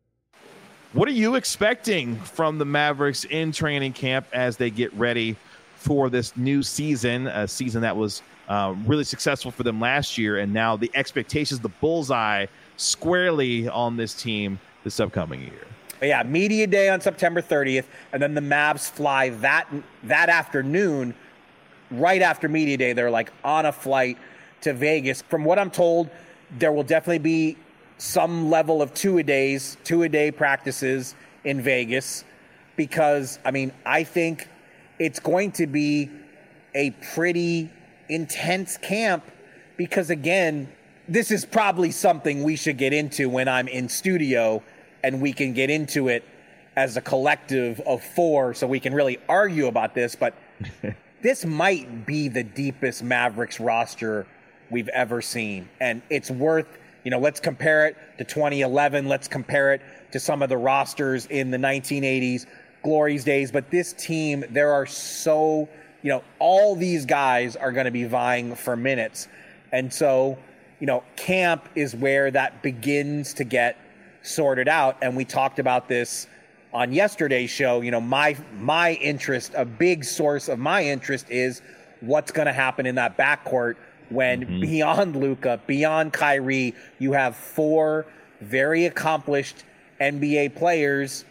What are you expecting from the Mavericks in training camp as they get ready for this new season, a season that was uh, really successful for them last year, and now the expectations, the bullseye squarely on this team this upcoming year? But yeah, media day on September thirtieth, and then the Mavs fly that that afternoon, right after media day. They're like on a flight to Vegas. From what I'm told, there will definitely be some level of two-a-days, two-a-day practices in Vegas because, I mean, I think it's going to be a pretty intense camp because, again, this is probably something we should get into when I'm in studio and we can get into it as a collective of four so we can really argue about this. But this might be the deepest Mavericks roster we've ever seen. And it's worth, you know, let's compare it to twenty eleven. Let's compare it to some of the rosters in the nineteen eighties Glory's days. But this team, there are so, you know, all these guys are going to be vying for minutes. And so, you know, camp is where that begins to get sorted out. And we talked about this on yesterday's show. You know, my my interest, a big source of my interest is what's going to happen in that backcourt when mm-hmm. beyond Luka, beyond Kyrie, you have four very accomplished N B A players,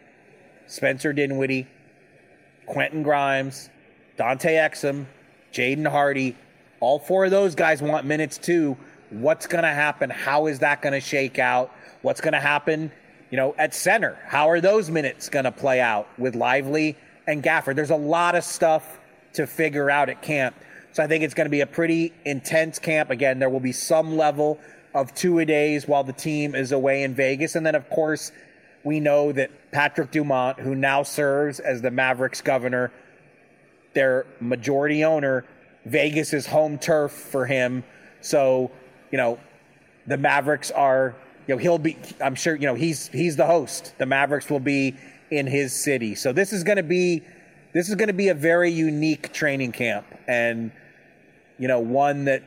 Spencer Dinwiddie, Quentin Grimes, Dante Exum, Jaden Hardy. All four of those guys want minutes too. What's going to happen? How is that going to shake out? What's going to happen, you know, at center? How are those minutes going to play out with Lively and Gafford? There's a lot of stuff to figure out at camp. So I think it's going to be a pretty intense camp. Again, there will be some level of two-a-days while the team is away in Vegas. And then, of course, we know that Patrick Dumont, who now serves as the Mavericks governor, their majority owner, Vegas is home turf for him. So, you know, the Mavericks are, you know, he'll be, I'm sure, you know, he's he's the host. The Mavericks will be in his city. So this is going to be, this is going to be a very unique training camp. And, you know, one that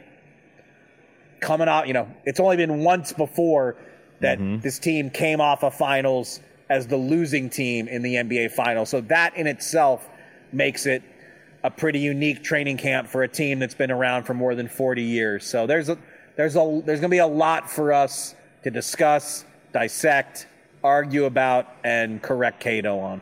coming out, you know, it's only been once before that mm-hmm. this team came off of finals as the losing team in the N B A finals. So that in itself makes it a pretty unique training camp for a team that's been around for more than forty years. So there's a, there's a, there's going to be a lot for us to discuss, dissect, argue about, and correct Cato on.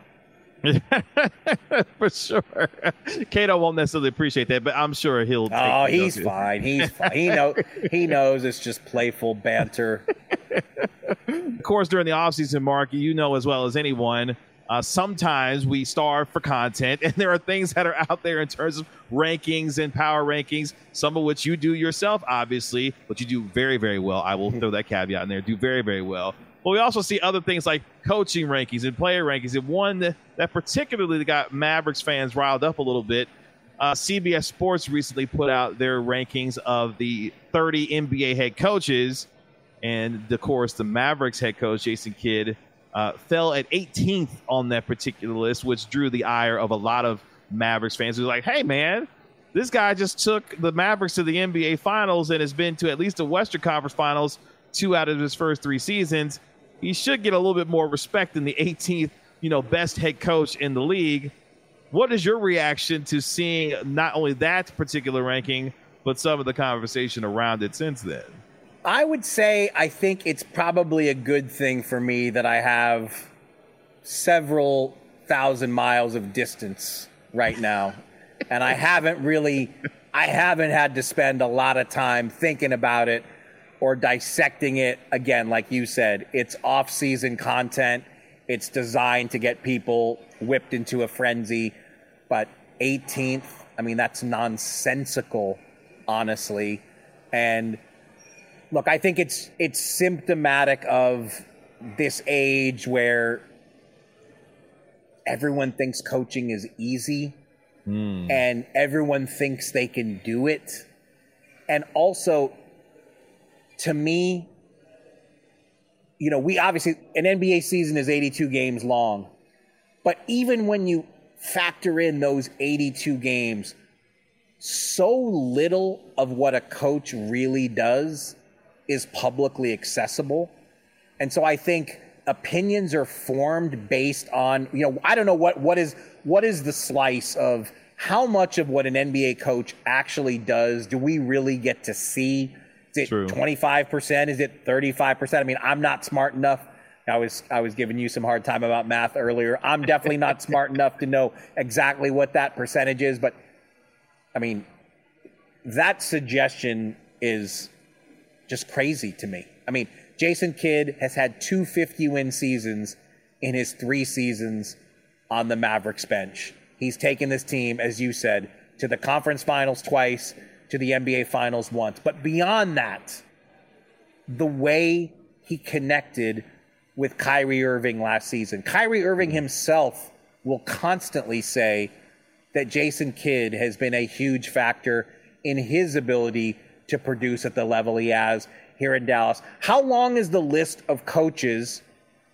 For sure. Cato won't necessarily appreciate that, but I'm sure he'll take Oh, he's fine. He's fine. He know he knows it's just playful banter. Of course, during the offseason, Mark, you know as well as anyone, Uh, sometimes we starve for content, and there are things that are out there in terms of rankings and power rankings, some of which you do yourself, obviously, but you do very, very well. I will throw that caveat in there. Do very, very well. But we also see other things like coaching rankings and player rankings. And one that, that particularly got Mavericks fans riled up a little bit, uh, C B S Sports recently put out their rankings of the thirty N B A head coaches. And, of course, the Mavericks head coach, Jason Kidd, uh, fell at eighteenth on that particular list, which drew the ire of a lot of Mavericks fans who were like, hey, man, this guy just took the Mavericks to the N B A Finals and has been to at least the Western Conference Finals two out of his first three seasons. He should get a little bit more respect than the eighteenth, you know, best head coach in the league. What is your reaction to seeing not only that particular ranking, but some of the conversation around it since then? I would say I think it's probably a good thing for me that I have several thousand miles of distance right now. And I haven't really, I haven't had to spend a lot of time thinking about it or dissecting it. Again, like you said, it's off-season content. It's designed to get people whipped into a frenzy. But eighteenth, I mean, that's nonsensical, honestly. And look, I think it's it's symptomatic of this age where everyone thinks coaching is easy mm. and everyone thinks they can do it. And also, to me, you know, we obviously, an N B A season is eighty-two games long. But even when you factor in those eighty-two games, so little of what a coach really does is publicly accessible. And so I think opinions are formed based on, you know, I don't know what, what is, what is the slice of how much of what an N B A coach actually does do we really get to see? Is it True. twenty-five percent? Is it thirty-five percent? I mean, I'm not smart enough. I was I was giving you some hard time about math earlier. I'm definitely not smart enough to know exactly what that percentage is. But, I mean, that suggestion is just crazy to me. I mean, Jason Kidd has had two fifty-win seasons in his three seasons on the Mavericks bench. He's taken this team, as you said, to the conference finals twice, to the N B A Finals once. But beyond that, the way he connected with Kyrie Irving last season. Kyrie Irving himself will constantly say that Jason Kidd has been a huge factor in his ability to produce at the level he has here in Dallas. How long is the list of coaches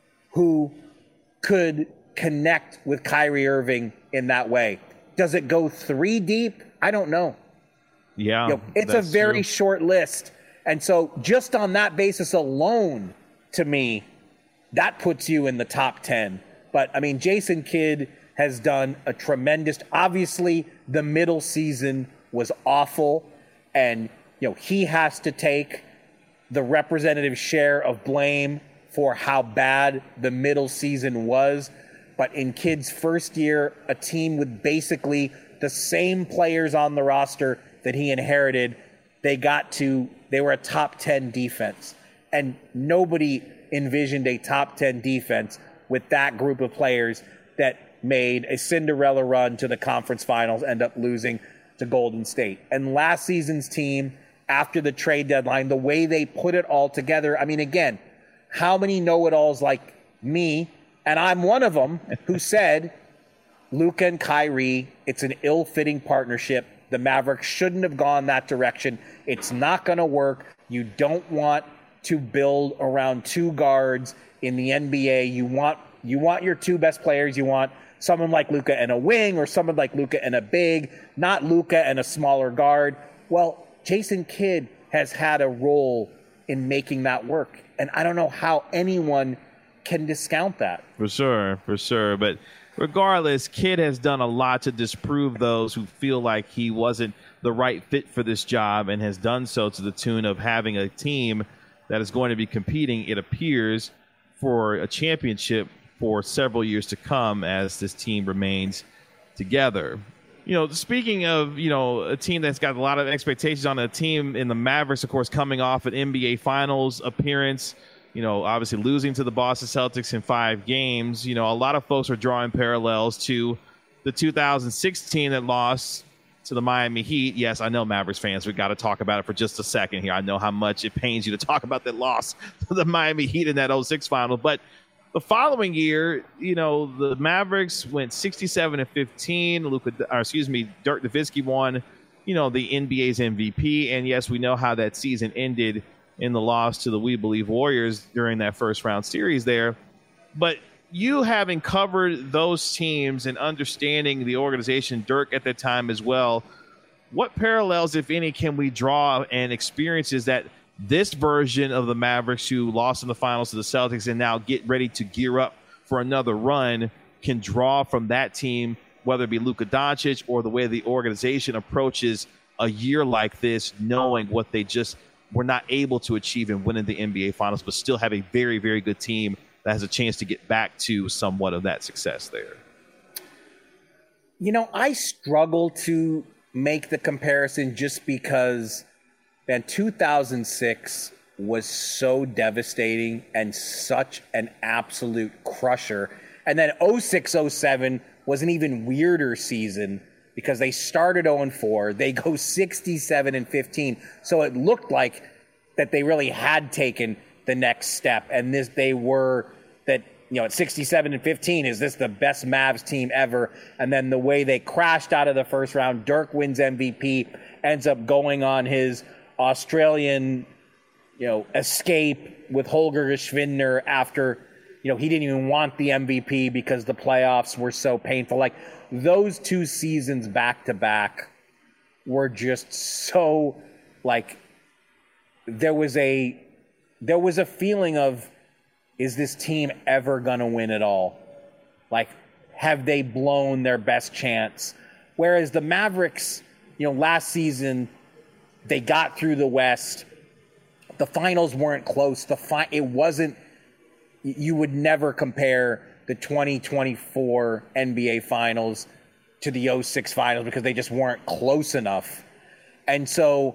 who could connect with Kyrie Irving in that way? Does it go three deep? I don't know. Yeah, you know, it's a very true. short list. And so just on that basis alone, to me, that puts you in the top ten. But, I mean, Jason Kidd has done a tremendous, obviously the middle season was awful. And, you know, he has to take the representative share of blame for how bad the middle season was. But in Kidd's first year, a team with basically the same players on the roster that he inherited, they got to, they were a top ten defense. And nobody envisioned a top ten defense with that group of players that made a Cinderella run to the conference finals, end up losing to Golden State. And last season's team, after the trade deadline, the way they put it all together, I mean, again, how many know-it-alls like me, and I'm one of them, who said, Luka and Kyrie, it's an ill-fitting partnership. The Mavericks shouldn't have gone that direction. It's not going to work. You don't want to build around two guards in the N B A. You want you want your two best players. You want someone like Luka and a wing, or someone like Luka and a big, not Luka and a smaller guard. Well, Jason Kidd has had a role in making that work. And I don't know how anyone can discount that. For sure, for sure. But regardless, Kidd has done a lot to disprove those who feel like he wasn't the right fit for this job, and has done so to the tune of having a team that is going to be competing, it appears, for a championship for several years to come as this team remains together. You know, speaking of, you know, a team that's got a lot of expectations on a team in the Mavericks, of course, coming off an N B A Finals appearance, you know, obviously losing to the Boston Celtics in five games, you know, a lot of folks are drawing parallels to the two thousand sixteen that lost to the Miami Heat. Yes, I know, Mavericks fans, we got to talk about it for just a second here. I know how much it pains you to talk about that loss to the Miami Heat in that oh six final. But the following year, you know, the Mavericks went sixty-seven and fifteen. Luka, or excuse me, Dirk Nowitzki won, you know, the N B A's M V P. And yes, we know how that season ended in the loss to the We Believe Warriors during that first round series there. But you having covered those teams and understanding the organization, Dirk at that time as well, what parallels, if any, can we draw and experiences that this version of the Mavericks, who lost in the finals to the Celtics and now get ready to gear up for another run, can draw from that team, whether it be Luka Doncic or the way the organization approaches a year like this, knowing what they just were not able to achieve in winning the N B A Finals, but still have a very, very good team that has a chance to get back to somewhat of that success there? You know, I struggle to make the comparison just because, man, two thousand six was so devastating and such an absolute crusher. And then oh six oh seven was an even weirder season because they started oh and four. They go sixty-seven and fifteen. So it looked like that they really had taken the next step. And this, they were that, you know, at sixty-seven and fifteen, is this the best Mavs team ever? And then the way they crashed out of the first round, Dirk wins M V P, ends up going on his Australian, you know, escape with Holger Geschwindner after, you know, he didn't even want the M V P because the playoffs were so painful. Like, those two seasons back to back were just so, like, there was a there was a feeling of, is this team ever going to win it all? Like, have they blown their best chance? Whereas the Mavericks, you know, last season, they got through the West. The finals weren't close. The fi- It wasn't, you would never compare the twenty twenty-four N B A Finals to the oh six Finals because they just weren't close enough. And so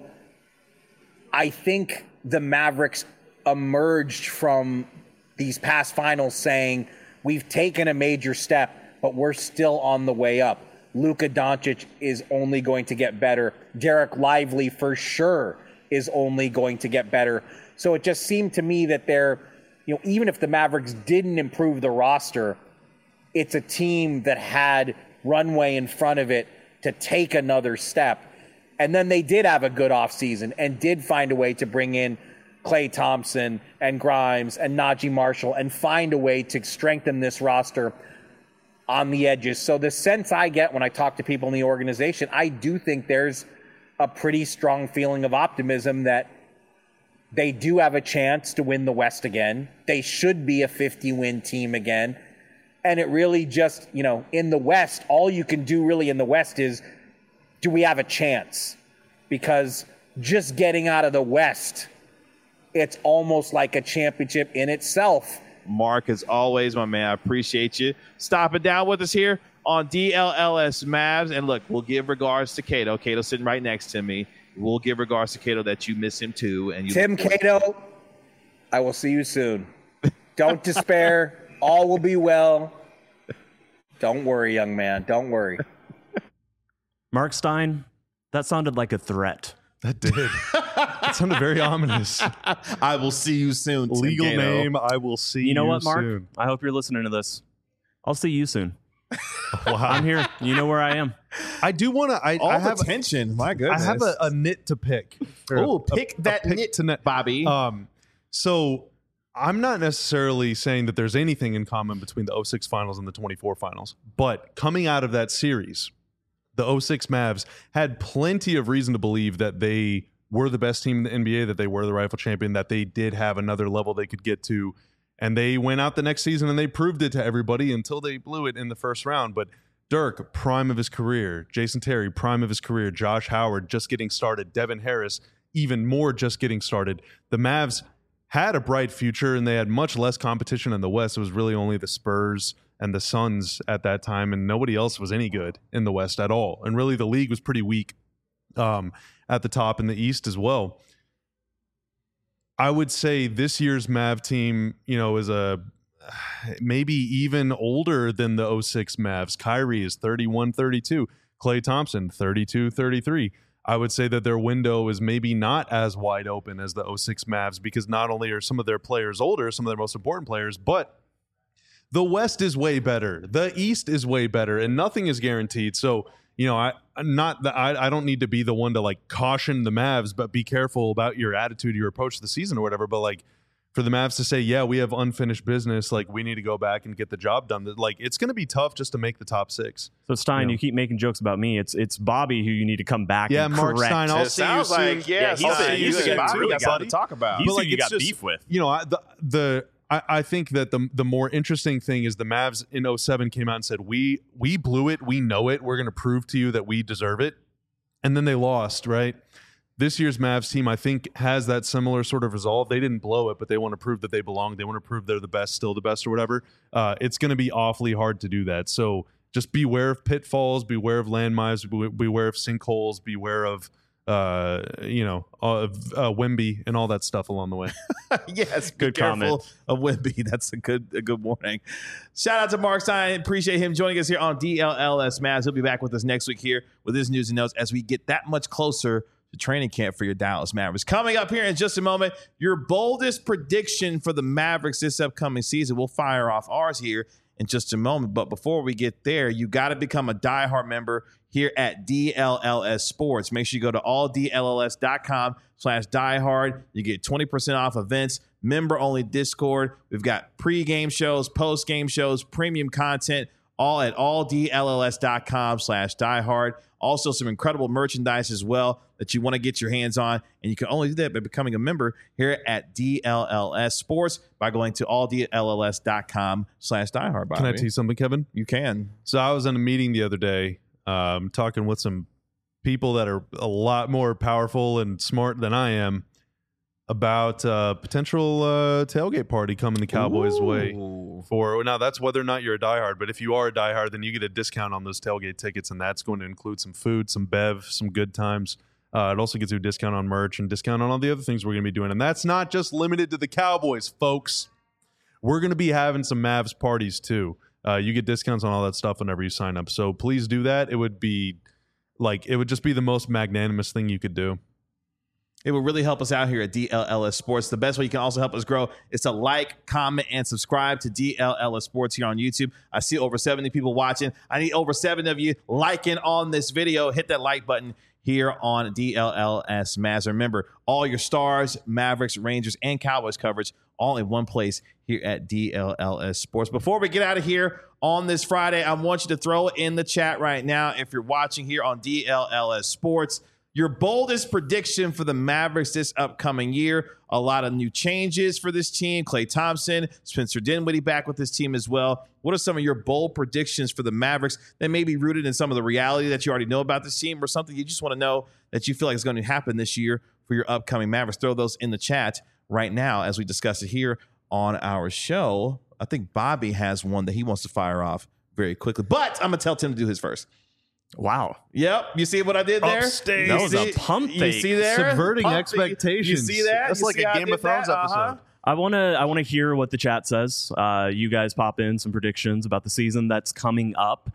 I think the Mavericks emerged from these past finals saying, we've taken a major step, but we're still on the way up. Luka Doncic is only going to get better. Derek Lively, for sure, is only going to get better. So it just seemed to me that they're, you know, even if the Mavericks didn't improve the roster, it's a team that had runway in front of it to take another step. And then they did have a good offseason and did find a way to bring in Klay Thompson and Grimes and Najee Marshall and find a way to strengthen this roster on the edges. So the sense I get when I talk to people in the organization, I do think there's a pretty strong feeling of optimism that they do have a chance to win the West again. They should be a fifty-win team again. And it really just, you know, in the West, all you can do really in the West is, do we have a chance? Because just getting out of the West, it's almost like a championship in itself. Mark, as always, my man, I appreciate you stopping down with us here on D L L S Mavs. And look, we'll give regards to Cato. Cato's sitting right next to me. We'll give regards to Cato that you miss him too. And you Tim Cato, I will see you soon. Don't despair. All will be well. Don't worry, young man. Don't worry. Mark Stein, that sounded like a threat. That did. That sounded very ominous. I will see you soon, Tim Legal Cato. name, I will see you You know what, Mark? soon. I hope you're listening to this. I'll see you soon. Wow. I'm here. You know where I am. I do want to. I, All I the have. tension. My I goodness. have a, a nit to pick. Or Oh, a- pick a that pick nit, to net. Bobby. Um, so I'm not necessarily saying that there's anything in common between the oh six finals and the twenty-four finals, but coming out of that series, the oh six Mavs had plenty of reason to believe that they were the best team in the N B A, that they were the rightful champion, that they did have another level they could get to. And they went out the next season and they proved it to everybody until they blew it in the first round. But Dirk, prime of his career. Jason Terry, prime of his career. Josh Howard, just getting started. Devin Harris, even more just getting started. The Mavs had a bright future and they had much less competition in the West. It was really only the Spurs and the Suns at that time, and nobody else was any good in the West at all. And really the league was pretty weak um, at the top in the East as well. I would say this year's Mav team, you know, is a maybe even older than the oh six Mavs. Kyrie is thirty-one, thirty-two. Klay Thompson, thirty-two, thirty-three. I would say that their window is maybe not as wide open as the oh six Mavs because not only are some of their players older, some of their most important players, but the West is way better. The East is way better, and nothing is guaranteed. So, you know, I not that I, I don't need to be the one to like caution the Mavs, but be careful about your attitude, your approach to the season or whatever. But like for the Mavs to say, yeah, we have unfinished business, like we need to go back and get the job done. Like it's going to be tough just to make the top six. So Stein, you know? You keep making jokes about me. It's it's Bobby who you need to come back. Yeah, and Mark correct. Stein. I'll It see you sounds soon. like yeah, Yeah, he's he's I'll a- see you he's a soon. good Bobby dude, got something buddy. to talk about. He's But, who like, you it's got just- beef with. You know, I, the the I, I think that the the more interesting thing is the Mavs in oh seven came out and said we we blew it, we know it, we're going to prove to you that we deserve it, and then they lost. Right, this year's Mavs team I think has that similar sort of resolve. They didn't blow it, but they want to prove that they belong. They want to prove they're the best, still the best, or whatever. Uh, it's going to be awfully hard to do that. So just beware of pitfalls, beware of landmines, be- beware of sinkholes, beware of uh you know of uh Wemby and all that stuff along the way. Yes, be Good careful comment. of Wemby. That's a good a good warning. Shout out to Mark Stein. Appreciate him joining us here on D L L S Mavs. He'll be back with us next week here with his news and notes as we get that much closer to training camp for your Dallas Mavericks. Coming up here in just a moment, your boldest prediction for the Mavericks this upcoming season. We'll fire off ours here in just a moment. But before we get there, you got to become a diehard member here at D L L S Sports. Make sure you go to all D L L S dot com slash diehard. You get twenty percent off events, member-only Discord. We've got pre-game shows, post-game shows, premium content, all at all D L L S dot com slash diehard. Also, some incredible merchandise as well that you want to get your hands on. And you can only do that by becoming a member here at D L L S Sports by going to all D L L S dot com slash diehard. Can I tell you something, Kevin? You can. So I was in a meeting the other day, um, talking with some people that are a lot more powerful and smart than I am about uh, potential uh, tailgate party coming the Cowboys' way. Ooh. For now, that's whether or not you're a diehard. But if you are a diehard, then you get a discount on those tailgate tickets, and that's going to include some food, some bev, some good times. Uh, it also gets you a discount on merch and discount on all the other things we're going to be doing. And that's not just limited to the Cowboys, folks. We're going to be having some Mavs parties too. Uh, you get discounts on all that stuff whenever you sign up. So please do that. It would be like it would just be the most magnanimous thing you could do. It will really help us out here at D L L S Sports. The best way you can also help us grow is to like, comment, and subscribe to D L L S Sports here on YouTube. I see over seventy people watching. I need over seven of you liking on this video. Hit that like button here on D L L S Mavs. Remember, all your Stars, Mavericks, Rangers, and Cowboys coverage all in one place here at D L L S Sports. Before we get out of here on this Friday, I want you to throw it in the chat right now if you're watching here on D L L S Sports. Your boldest prediction for the Mavericks this upcoming year. A lot of new changes for this team. Klay Thompson, Spencer Dinwiddie back with this team as well. What are some of your bold predictions for the Mavericks that may be rooted in some of the reality that you already know about this team or something you just want to know that you feel like is going to happen this year for your upcoming Mavericks? Throw those in the chat right now as we discuss it here on our show. I think Bobby has one that he wants to fire off very quickly, but I'm going to tell Tim to do his first. Wow. Yep. You see what I did there? Upstage. That You was a see- pump You fake. see there? Subverting Pump fake. expectations. You see that? That's You like see a how I Game did of Thrones that? episode. Uh-huh. I want to I want to hear what the chat says. Uh, you guys pop in some predictions about the season that's coming up.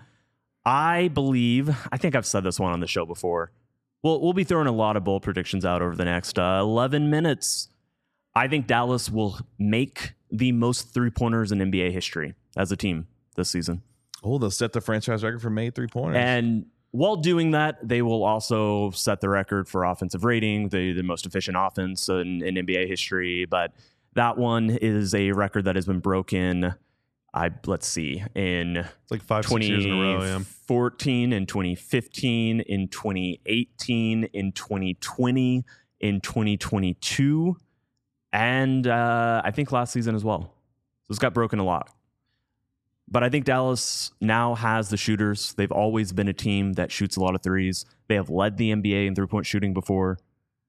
I believe, I think I've said this one on the show before. We'll, we'll be throwing a lot of bold predictions out over the next uh, eleven minutes. I think Dallas will make the most three-pointers in N B A history as a team this season. Oh, they'll set the franchise record for made three-pointers. And while doing that, they will also set the record for offensive rating, the, the most efficient offense in, in N B A history. But that one is a record that has been broken, I let's see, in It's like five, six years in a row. Yeah. twenty fourteen, in twenty fifteen, in twenty eighteen, in twenty twenty, in twenty twenty-two, and uh, I think last season as well. So it's got broken a lot. But I think Dallas now has the shooters. They've always been a team that shoots a lot of threes. They have led the N B A in three-point shooting before.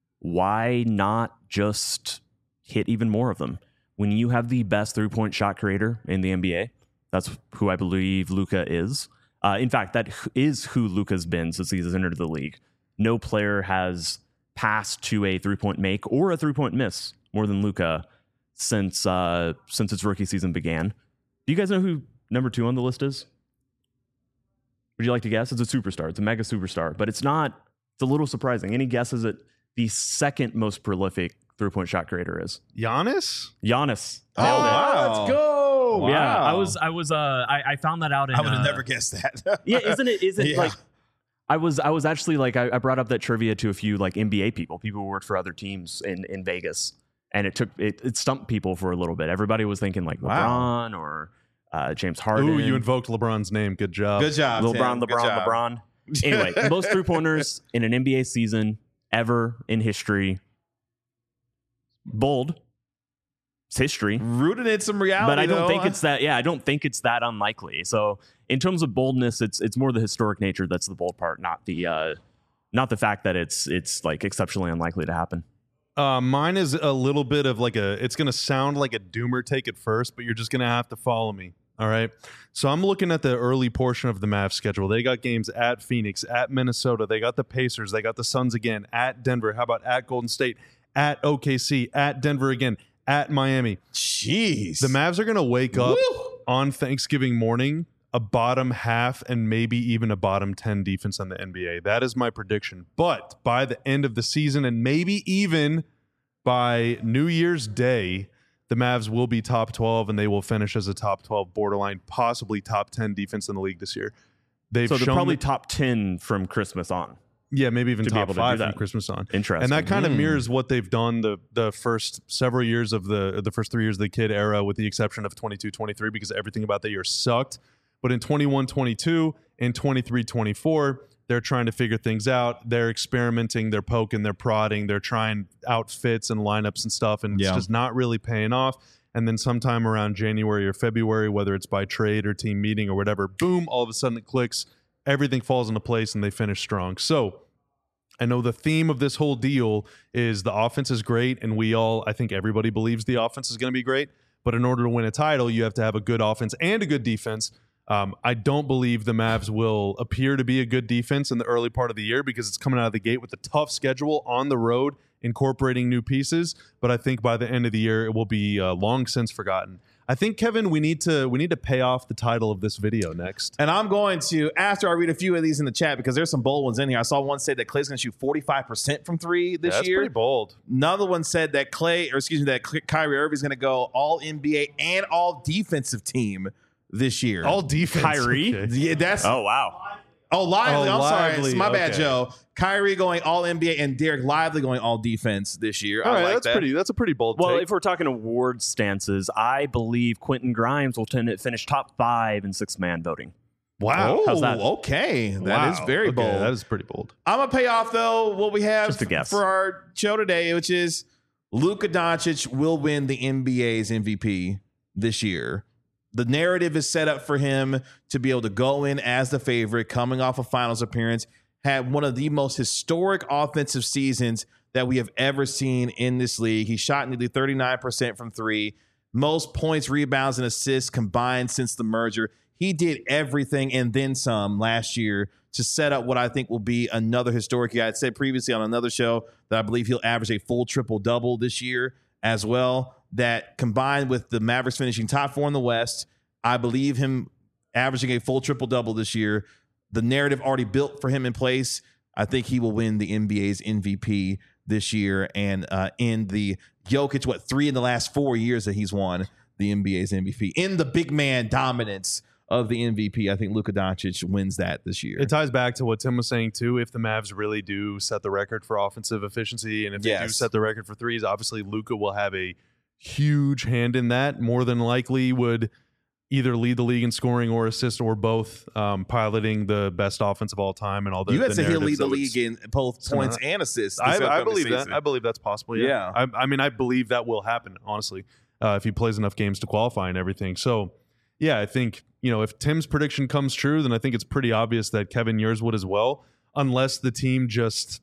Why not just hit even more of them? When you have the best three-point shot creator in the N B A, that's who I believe Luka is. Uh, in fact, that is who Luka's been since he's entered the league. No player has passed to a three-point make or a three-point miss more than Luka since uh, since its rookie season began. Do you guys know who number two on the list is? Would you like to guess? It's a superstar. It's a mega superstar, but it's not. It's a little surprising. Any guesses at the second most prolific three-point shot creator is? Giannis? Giannis. Oh, Nailed it. wow. Let's go. Wow. Yeah, I was, I was, uh, I, I found that out. In, I would have uh, never guessed that. Yeah, isn't it? Isn't Yeah. like I was, I was actually like, I, I brought up that trivia to a few like N B A people, people who worked for other teams in in Vegas, and it took it, it stumped people for a little bit. Everybody was thinking like Wow. LeBron or uh, James Harden. Ooh, you invoked LeBron's name. Good job. Good job, LeBron, Tim. Good LeBron, job. LeBron. Anyway, most three pointers in an N B A season ever in history. Bold. It's history. Rooted in some reality, But I don't though. think it's that. Yeah, I don't think it's that unlikely. So in terms of boldness, it's it's more the historic nature that's the bold part, not the uh, not the fact that it's it's like exceptionally unlikely to happen. Uh, mine is a little bit of like a, it's going to sound like a doomer take at first, but you're just going to have to follow me. All right. So I'm looking at the early portion of the Mavs schedule. They got games at Phoenix, at Minnesota. They got the Pacers. They got the Suns again, at Denver. How about at Golden State, at O K C, at Denver again, at Miami. Jeez. The Mavs are going to wake up Woo! on Thanksgiving morning a bottom half and maybe even a bottom ten defense in the N B A. That is my prediction. But by the end of the season and maybe even by New Year's Day, the Mavs will be top twelve and they will finish as a top twelve, borderline, possibly top ten defense in the league this year. They've So they're shown probably that- top ten from Christmas on. yeah, maybe even to be top able to do five from that. Christmas on. Interesting. And that kind of Hmm. mirrors what they've done the the first several years of the the first three years of the kid era, with the exception of twenty-two twenty-three, because everything about that year sucked. But in twenty-one twenty-two and twenty-three twenty-four, they're trying to figure things out. They're experimenting, they're poking, they're prodding, they're trying outfits and lineups and stuff, and Yeah. it's just not really paying off. And then sometime around January or February, whether it's by trade or team meeting or whatever, boom, all of a sudden it clicks, everything falls into place, and they finish strong. So I know the theme of this whole deal is the offense is great, and we all, I think everybody believes the offense is going to be great. But in order to win a title, you have to have a good offense and a good defense. Um, I don't believe the Mavs will appear to be a good defense in the early part of the year because it's coming out of the gate with a tough schedule on the road, incorporating new pieces. But I think by the end of the year, it will be uh, long since forgotten. I think, Kevin, we need to we need to pay off the title of this video next. And I'm going to, after I read a few of these in the chat, because there's some bold ones in here. I saw one say that Clay's going to shoot forty-five percent from three this Yeah, that's year. pretty bold. Another one said that Clay, or excuse me, that Ky- Kyrie Irving's going to go all N B A and all defensive team this year. All defense. Kyrie? Okay. yeah, that's Oh wow. oh Lively. Oh, I'm sorry, Lively, it's my bad, okay. Joe. Kyrie going all N B A and Derek Lively going all defense this year. All I right, like that's that. pretty. That's a pretty bold Well, take. if we're talking award stances, I believe Quentin Grimes will tend to finish top five in six man voting. wow. Oh, How's that? okay, that Wow. is very Okay, bold. That is pretty bold. I'm gonna pay off though what we have Just a guess. for our show today, which is Luka Doncic will win the N B A's M V P this year. The narrative is set up for him to be able to go in as the favorite, coming off a finals appearance, had one of the most historic offensive seasons that we have ever seen in this league. He shot nearly thirty-nine percent from three, most points, rebounds, and assists combined since the merger. He did everything and then some last year to set up what I think will be another historic year. I had said previously on another show that I believe he'll average a full triple-double this year as well. That combined with the Mavericks finishing top four in the West, I believe him averaging a full triple-double this year. The narrative already built for him in place. I think he will win the N B A's M V P this year and uh, in the Jokic, what, three in the last four years that he's won the N B A's M V P. In the big man dominance of the M V P, I think Luka Doncic wins that this year. It ties back to what Tim was saying too. If the Mavs really do set the record for offensive efficiency, and if they do Yes. set the record for threes, obviously Luka will have a huge hand in that. More than likely, would either lead the league in scoring or assist or both, um, piloting the best offense of all time and all the. you had the said he'll lead narratives the that would- league in both Some points of and assists. this I, I upcoming believe season. that. I believe that's possible. Yeah. Yeah. I, I mean, I believe that will happen. Honestly, uh, if he plays enough games to qualify and everything. So, yeah, I think, you know, if Tim's prediction comes true, then I think it's pretty obvious that Kevin yours would as well, unless the team just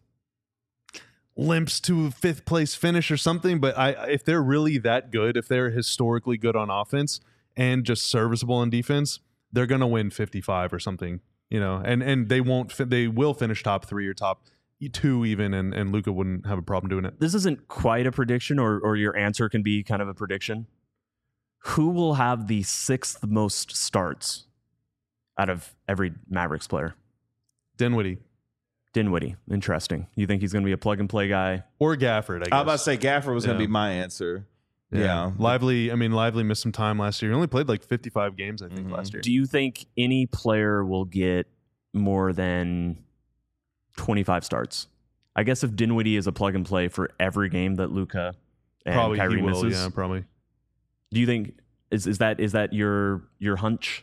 limps to a fifth place finish or something. But I, if they're really that good, if they're historically good on offense and just serviceable on defense, they're gonna win fifty-five or something. You know, and and they won't. Fi- they will finish top three or top two even, and, and Luka wouldn't have a problem doing it. This isn't quite a prediction, or or your answer can be kind of a prediction. Who will have the sixth most starts out of every Mavericks player? Dinwiddie. Dinwiddie. Interesting. You think he's going to be a plug-and-play guy? Or Gafford, I guess. I was about to say Gafford was going to Yeah. be my answer. Yeah. Lively, I mean, Lively missed some time last year. He only played like fifty-five games, I think, Mhm. last year. Do you think any player will get more than twenty-five starts? I guess if Dinwiddie is a plug-and-play for every game that Luka and Probably Kyrie he will, misses, yeah, probably. do you think is is that is that your your hunch?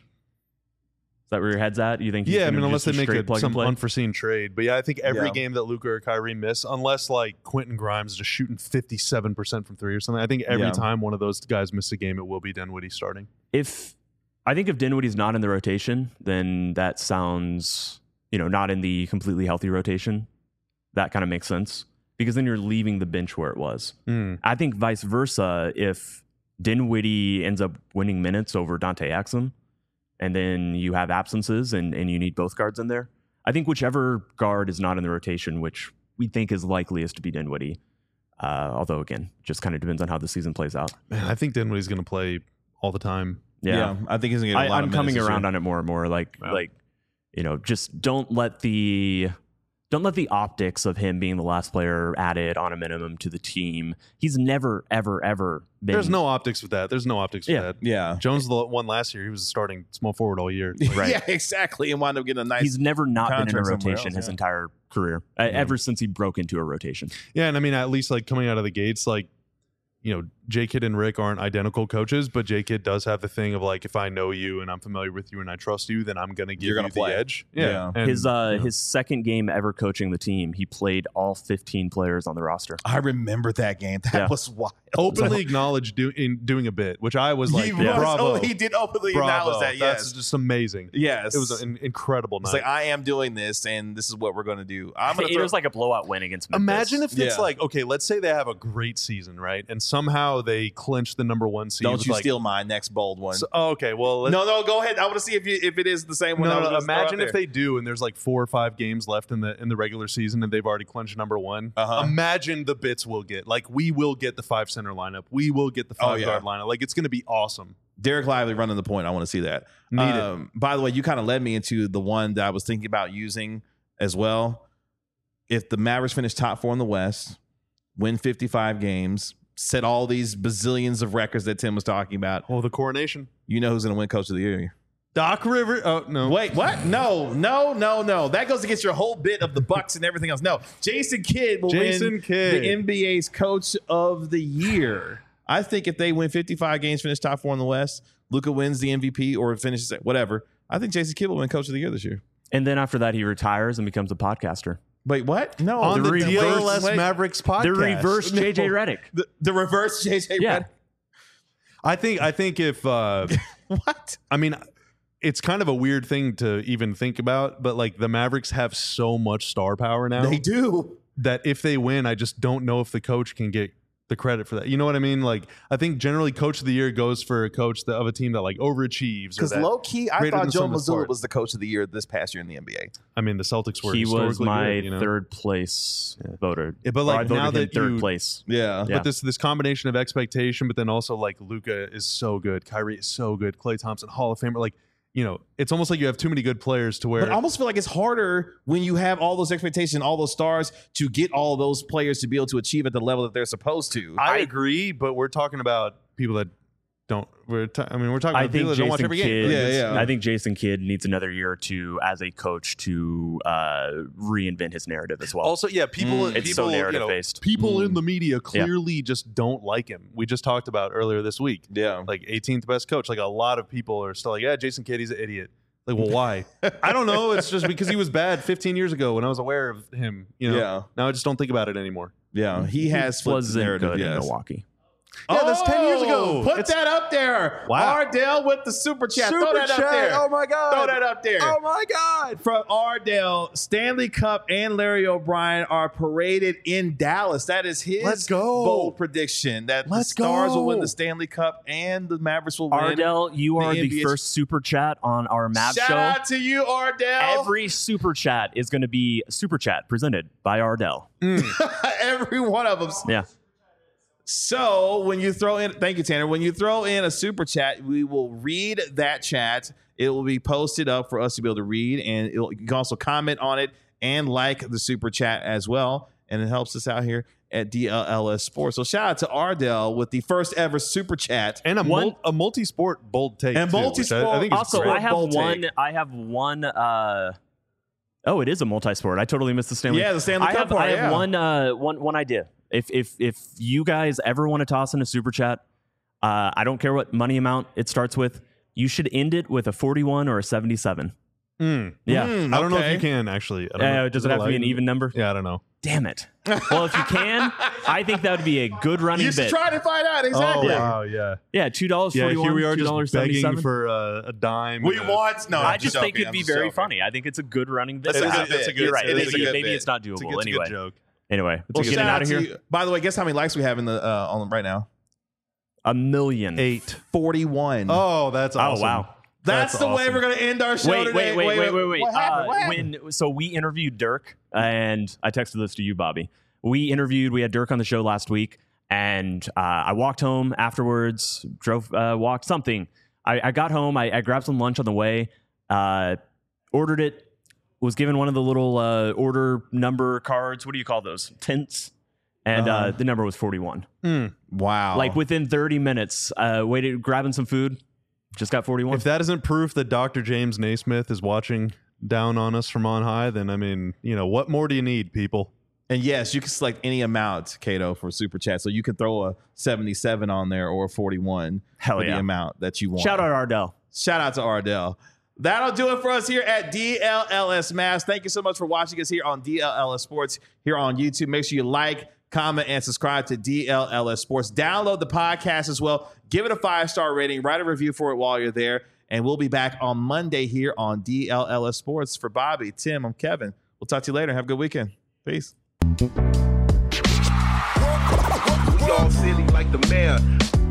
Is that where your head's at? You think? he's Yeah, I gonna mean, unless just they make straight a, plug some and play? unforeseen trade. But yeah, I think every Yeah. game that Luka or Kyrie miss, unless like Quentin Grimes is just shooting fifty-seven percent from three or something, I think every Yeah. time one of those guys miss a game, it will be Dinwiddie starting. If I think if Dinwiddie's not in the rotation, then that sounds, you know, not in the completely healthy rotation. That kind of makes sense because then you're leaving the bench where it was. Mm. I think vice versa. If Dinwiddie ends up winning minutes over Dante Exum, and then you have absences and, and you need both guards in there, I think whichever guard is not in the rotation, which we think is likeliest to be Dinwiddie, uh, although again, just kind of depends on how the season plays out. Man, I think Dinwiddie's going to play all the time. Yeah. I think he's going to get a I, lot I'm of coming minutes this around year. on it more and more. Like, Yeah. like, you know, just don't let the don't let the optics of him being the last player added on a minimum to the team. He's never, ever, ever been. There's no optics with that. There's no optics Yeah. with that. Yeah. Jones the one last year. He was a starting small forward all year. Like, Right. Yeah, exactly. And wound up getting a nice. He's never not been in a contract somewhere rotation else, his yeah. entire career, uh, ever since he broke into a rotation. Yeah, and I mean, at least like coming out of the gates, like, you know, J-Kid and Rick aren't identical coaches, but J-Kid does have the thing of like, if I know you and I'm familiar with you and I trust you, then I'm going to give You're you gonna the play. edge. Yeah. Yeah. And, his uh, you know, his second game ever coaching the team, he played all fifteen players on the roster. I remember that game. That Yeah. was wild. openly acknowledged do, in doing a bit, which I was like, he yeah. was, bravo. oh, he did openly bravo. acknowledge that. Yes. That's just amazing. yes. It was an incredible It's night. like, I am doing this, and this is what we're going to do. I'm going It to was like a blowout win against Memphis. Imagine if it's Yeah. like, okay, let's say they have a great season, right? And somehow they clinch the number one seed. Don't with, you like, steal my next bold one. So, oh, okay, well, let's, no, no, go ahead. I want to see if you, if it is the same one. no, I was no, gonna throw imagine out if there. they do, and there's like four or five games left in the in the regular season, and they've already clinched number one. Uh-huh. Imagine the bits we'll get. Like, we will get the five center lineup. We will get the Oh, five yeah. guard lineup. Like, it's going to be awesome. Derek Lively running the point. I want to see that. Need it. um, By the way, you kind of led me into the one that I was thinking about using as well. If the Mavericks finish top four in the West, win fifty-five games, set all these bazillions of records that Tim was talking about, Oh, the coronation. you know who's going to win Coach of the Year. Doc River. Oh no. Wait, what? No, no, no, no. That goes against your whole bit of the Bucks and everything else. No, Jason Kidd will Jason win Kidd. the N B A's Coach of the Year. I think if they win fifty-five games, finish top four in the West, Luka wins the M V P or finishes at whatever. I think Jason Kidd will win Coach of the Year this year. and then after that, he retires and becomes a podcaster. Wait, what? No, On the, reverse- D L S wait. Mavericks podcast. The reverse J J No. Redick. the, the reverse J J. Yeah. Redick. I think. I think if. Uh, What? I mean, it's kind of a weird thing to even think about, but like the Mavericks have so much star power now They do. that if they win, I just don't know if the coach can get the credit for that. You know what I mean? Like, I think generally Coach of the Year goes for a coach that, of a team that like overachieves. or Because that- low key, I greater thought than Joe some of its Mazzulla parts. was the Coach of the Year this past year in the N B A. I mean, the Celtics were He was historically my good, you know? third place voter. Yeah, but, Or like, I voted now him that third you- place. Yeah. Yeah. But this this combination of expectation, but then also like Luka is so good, Kyrie is so good, Klay Thompson, Hall of Famer. Like, you know, it's almost like you have too many good players to where. But I almost feel like it's harder when you have all those expectations, all those stars, to get all those players to be able to achieve at the level that they're supposed to. I agree, but we're talking about people that don't. We're ta- I mean, we're talking I about think people that don't watch Jason every game. Kidd. Like, Yeah, it's- yeah. I think Jason Kidd needs another year or two as a coach to uh, reinvent his narrative as well. Also, yeah, people. Mm. people It's so you know, narrative-based. people Mm. in the media clearly just don't like him. We just talked about earlier this week. Yeah. Like eighteenth best coach. Like a lot of people are still like, yeah, Jason Kidd, he's an idiot. Like, well, why? I don't know. It's just because he was bad fifteen years ago when I was aware of him. You know. Yeah. Now I just don't think about it anymore. Yeah. He has flipped the wasn't narrative. good in Yes. Milwaukee. Yeah, that's ten years ago. Put It's- that up there. Wow. Ardell with the super chat. Super Throw that chat. up there. Oh my God. Throw that up there. Oh my God. From Ardell, Stanley Cup and Larry O'Brien are paraded in Dallas. That is his Let's go. bold prediction that Let's the Stars go. will win the Stanley Cup and the Mavericks will win. Ardell, you the are N the B A first super chat on our Mavs Shout show. out to you, Ardell. Every super chat is going to be super chat presented by Ardell. Every one of them. Yeah. So when you throw in, thank you, Tanner. When you throw in a super chat, we will read that chat. It will be posted up for us to be able to read, and it'll, you can also comment on it and like the super chat as well. And it helps us out here at D L L S Sports. So shout out to Ardell with the first ever super chat. And a, One- mul- a multi-sport bold take. And too, which multi-sport- I, I think is Also, great. I have Bold one. take. I have one. Uh, oh, it is a multi-sport. I totally missed the Stanley. Yeah, the Stanley I Cup have, part, I have yeah. one. Uh, one. One idea. If if if you guys ever want to toss in a super chat, uh, I don't care what money amount it starts with. You should end it with a forty-one or a seventy-seven. Mm. Yeah. Mm, I don't know okay. if you can actually. I don't Uh, know. does Is it have to be allowed? an even number? Yeah, I don't know. Damn it. Well, if you can, I think that would be a good running You should bit. try to find out exactly. Oh wow, yeah, Yeah, two dollars yeah. forty-one. Here we are, two dollars just begging seventy-seven. for uh, a dime. We Uh, want no. I I'm just joking, think it'd I'm be just very joking. funny. I think it's a good running bit. That's a It good is- bit. it's a good- You're right. It Maybe, is a good maybe bit. it's not It's a doable. good, it's a Anyway, good joke. anyway, Well, let's get shout it out out of to here. you. By the way, guess how many likes we have in the uh, on right now? A million. Eight. forty-one. Oh, that's Oh awesome. wow. That's, That's the way awesome. we're going to end our show Wait, today. wait, wait, wait, wait, wait. What happened? Uh, What happened? when so we interviewed Dirk, and I texted this to you, Bobby. We interviewed. We had Dirk on the show last week, and uh, I walked home afterwards. Drove, uh, walked something. I, I got home. I, I grabbed some lunch on the way. Uh, ordered it. Was given one of the little uh, order number cards. What do you call those? Tints. And uh, Uh-huh. the number was forty-one. Wow. Like within thirty minutes, uh, waited, grabbing some food. Just got forty-one. If that isn't proof that Doctor James Naismith is watching down on us from on high, then I mean, you know, what more do you need, people? And yes, you can select any amount, Cato, for super chat. So you can throw a seventy-seven on there or a forty-one Hell for yeah. the amount that you want. Shout out Ardell. Shout out to Ardell. That'll do it for us here at D L L S Mavs. Thank you so much for watching us here on D L L S Sports here on YouTube. Make sure you like, comment, and subscribe to D L L S Sports. Download the podcast as well. Give it a five-star rating. Write a review for it while you're there. And we'll be back on Monday here on D L L S Sports. For Bobby, Tim, I'm Kevin. We'll talk to you later. Have a good weekend. Peace. We all silly like the mayor.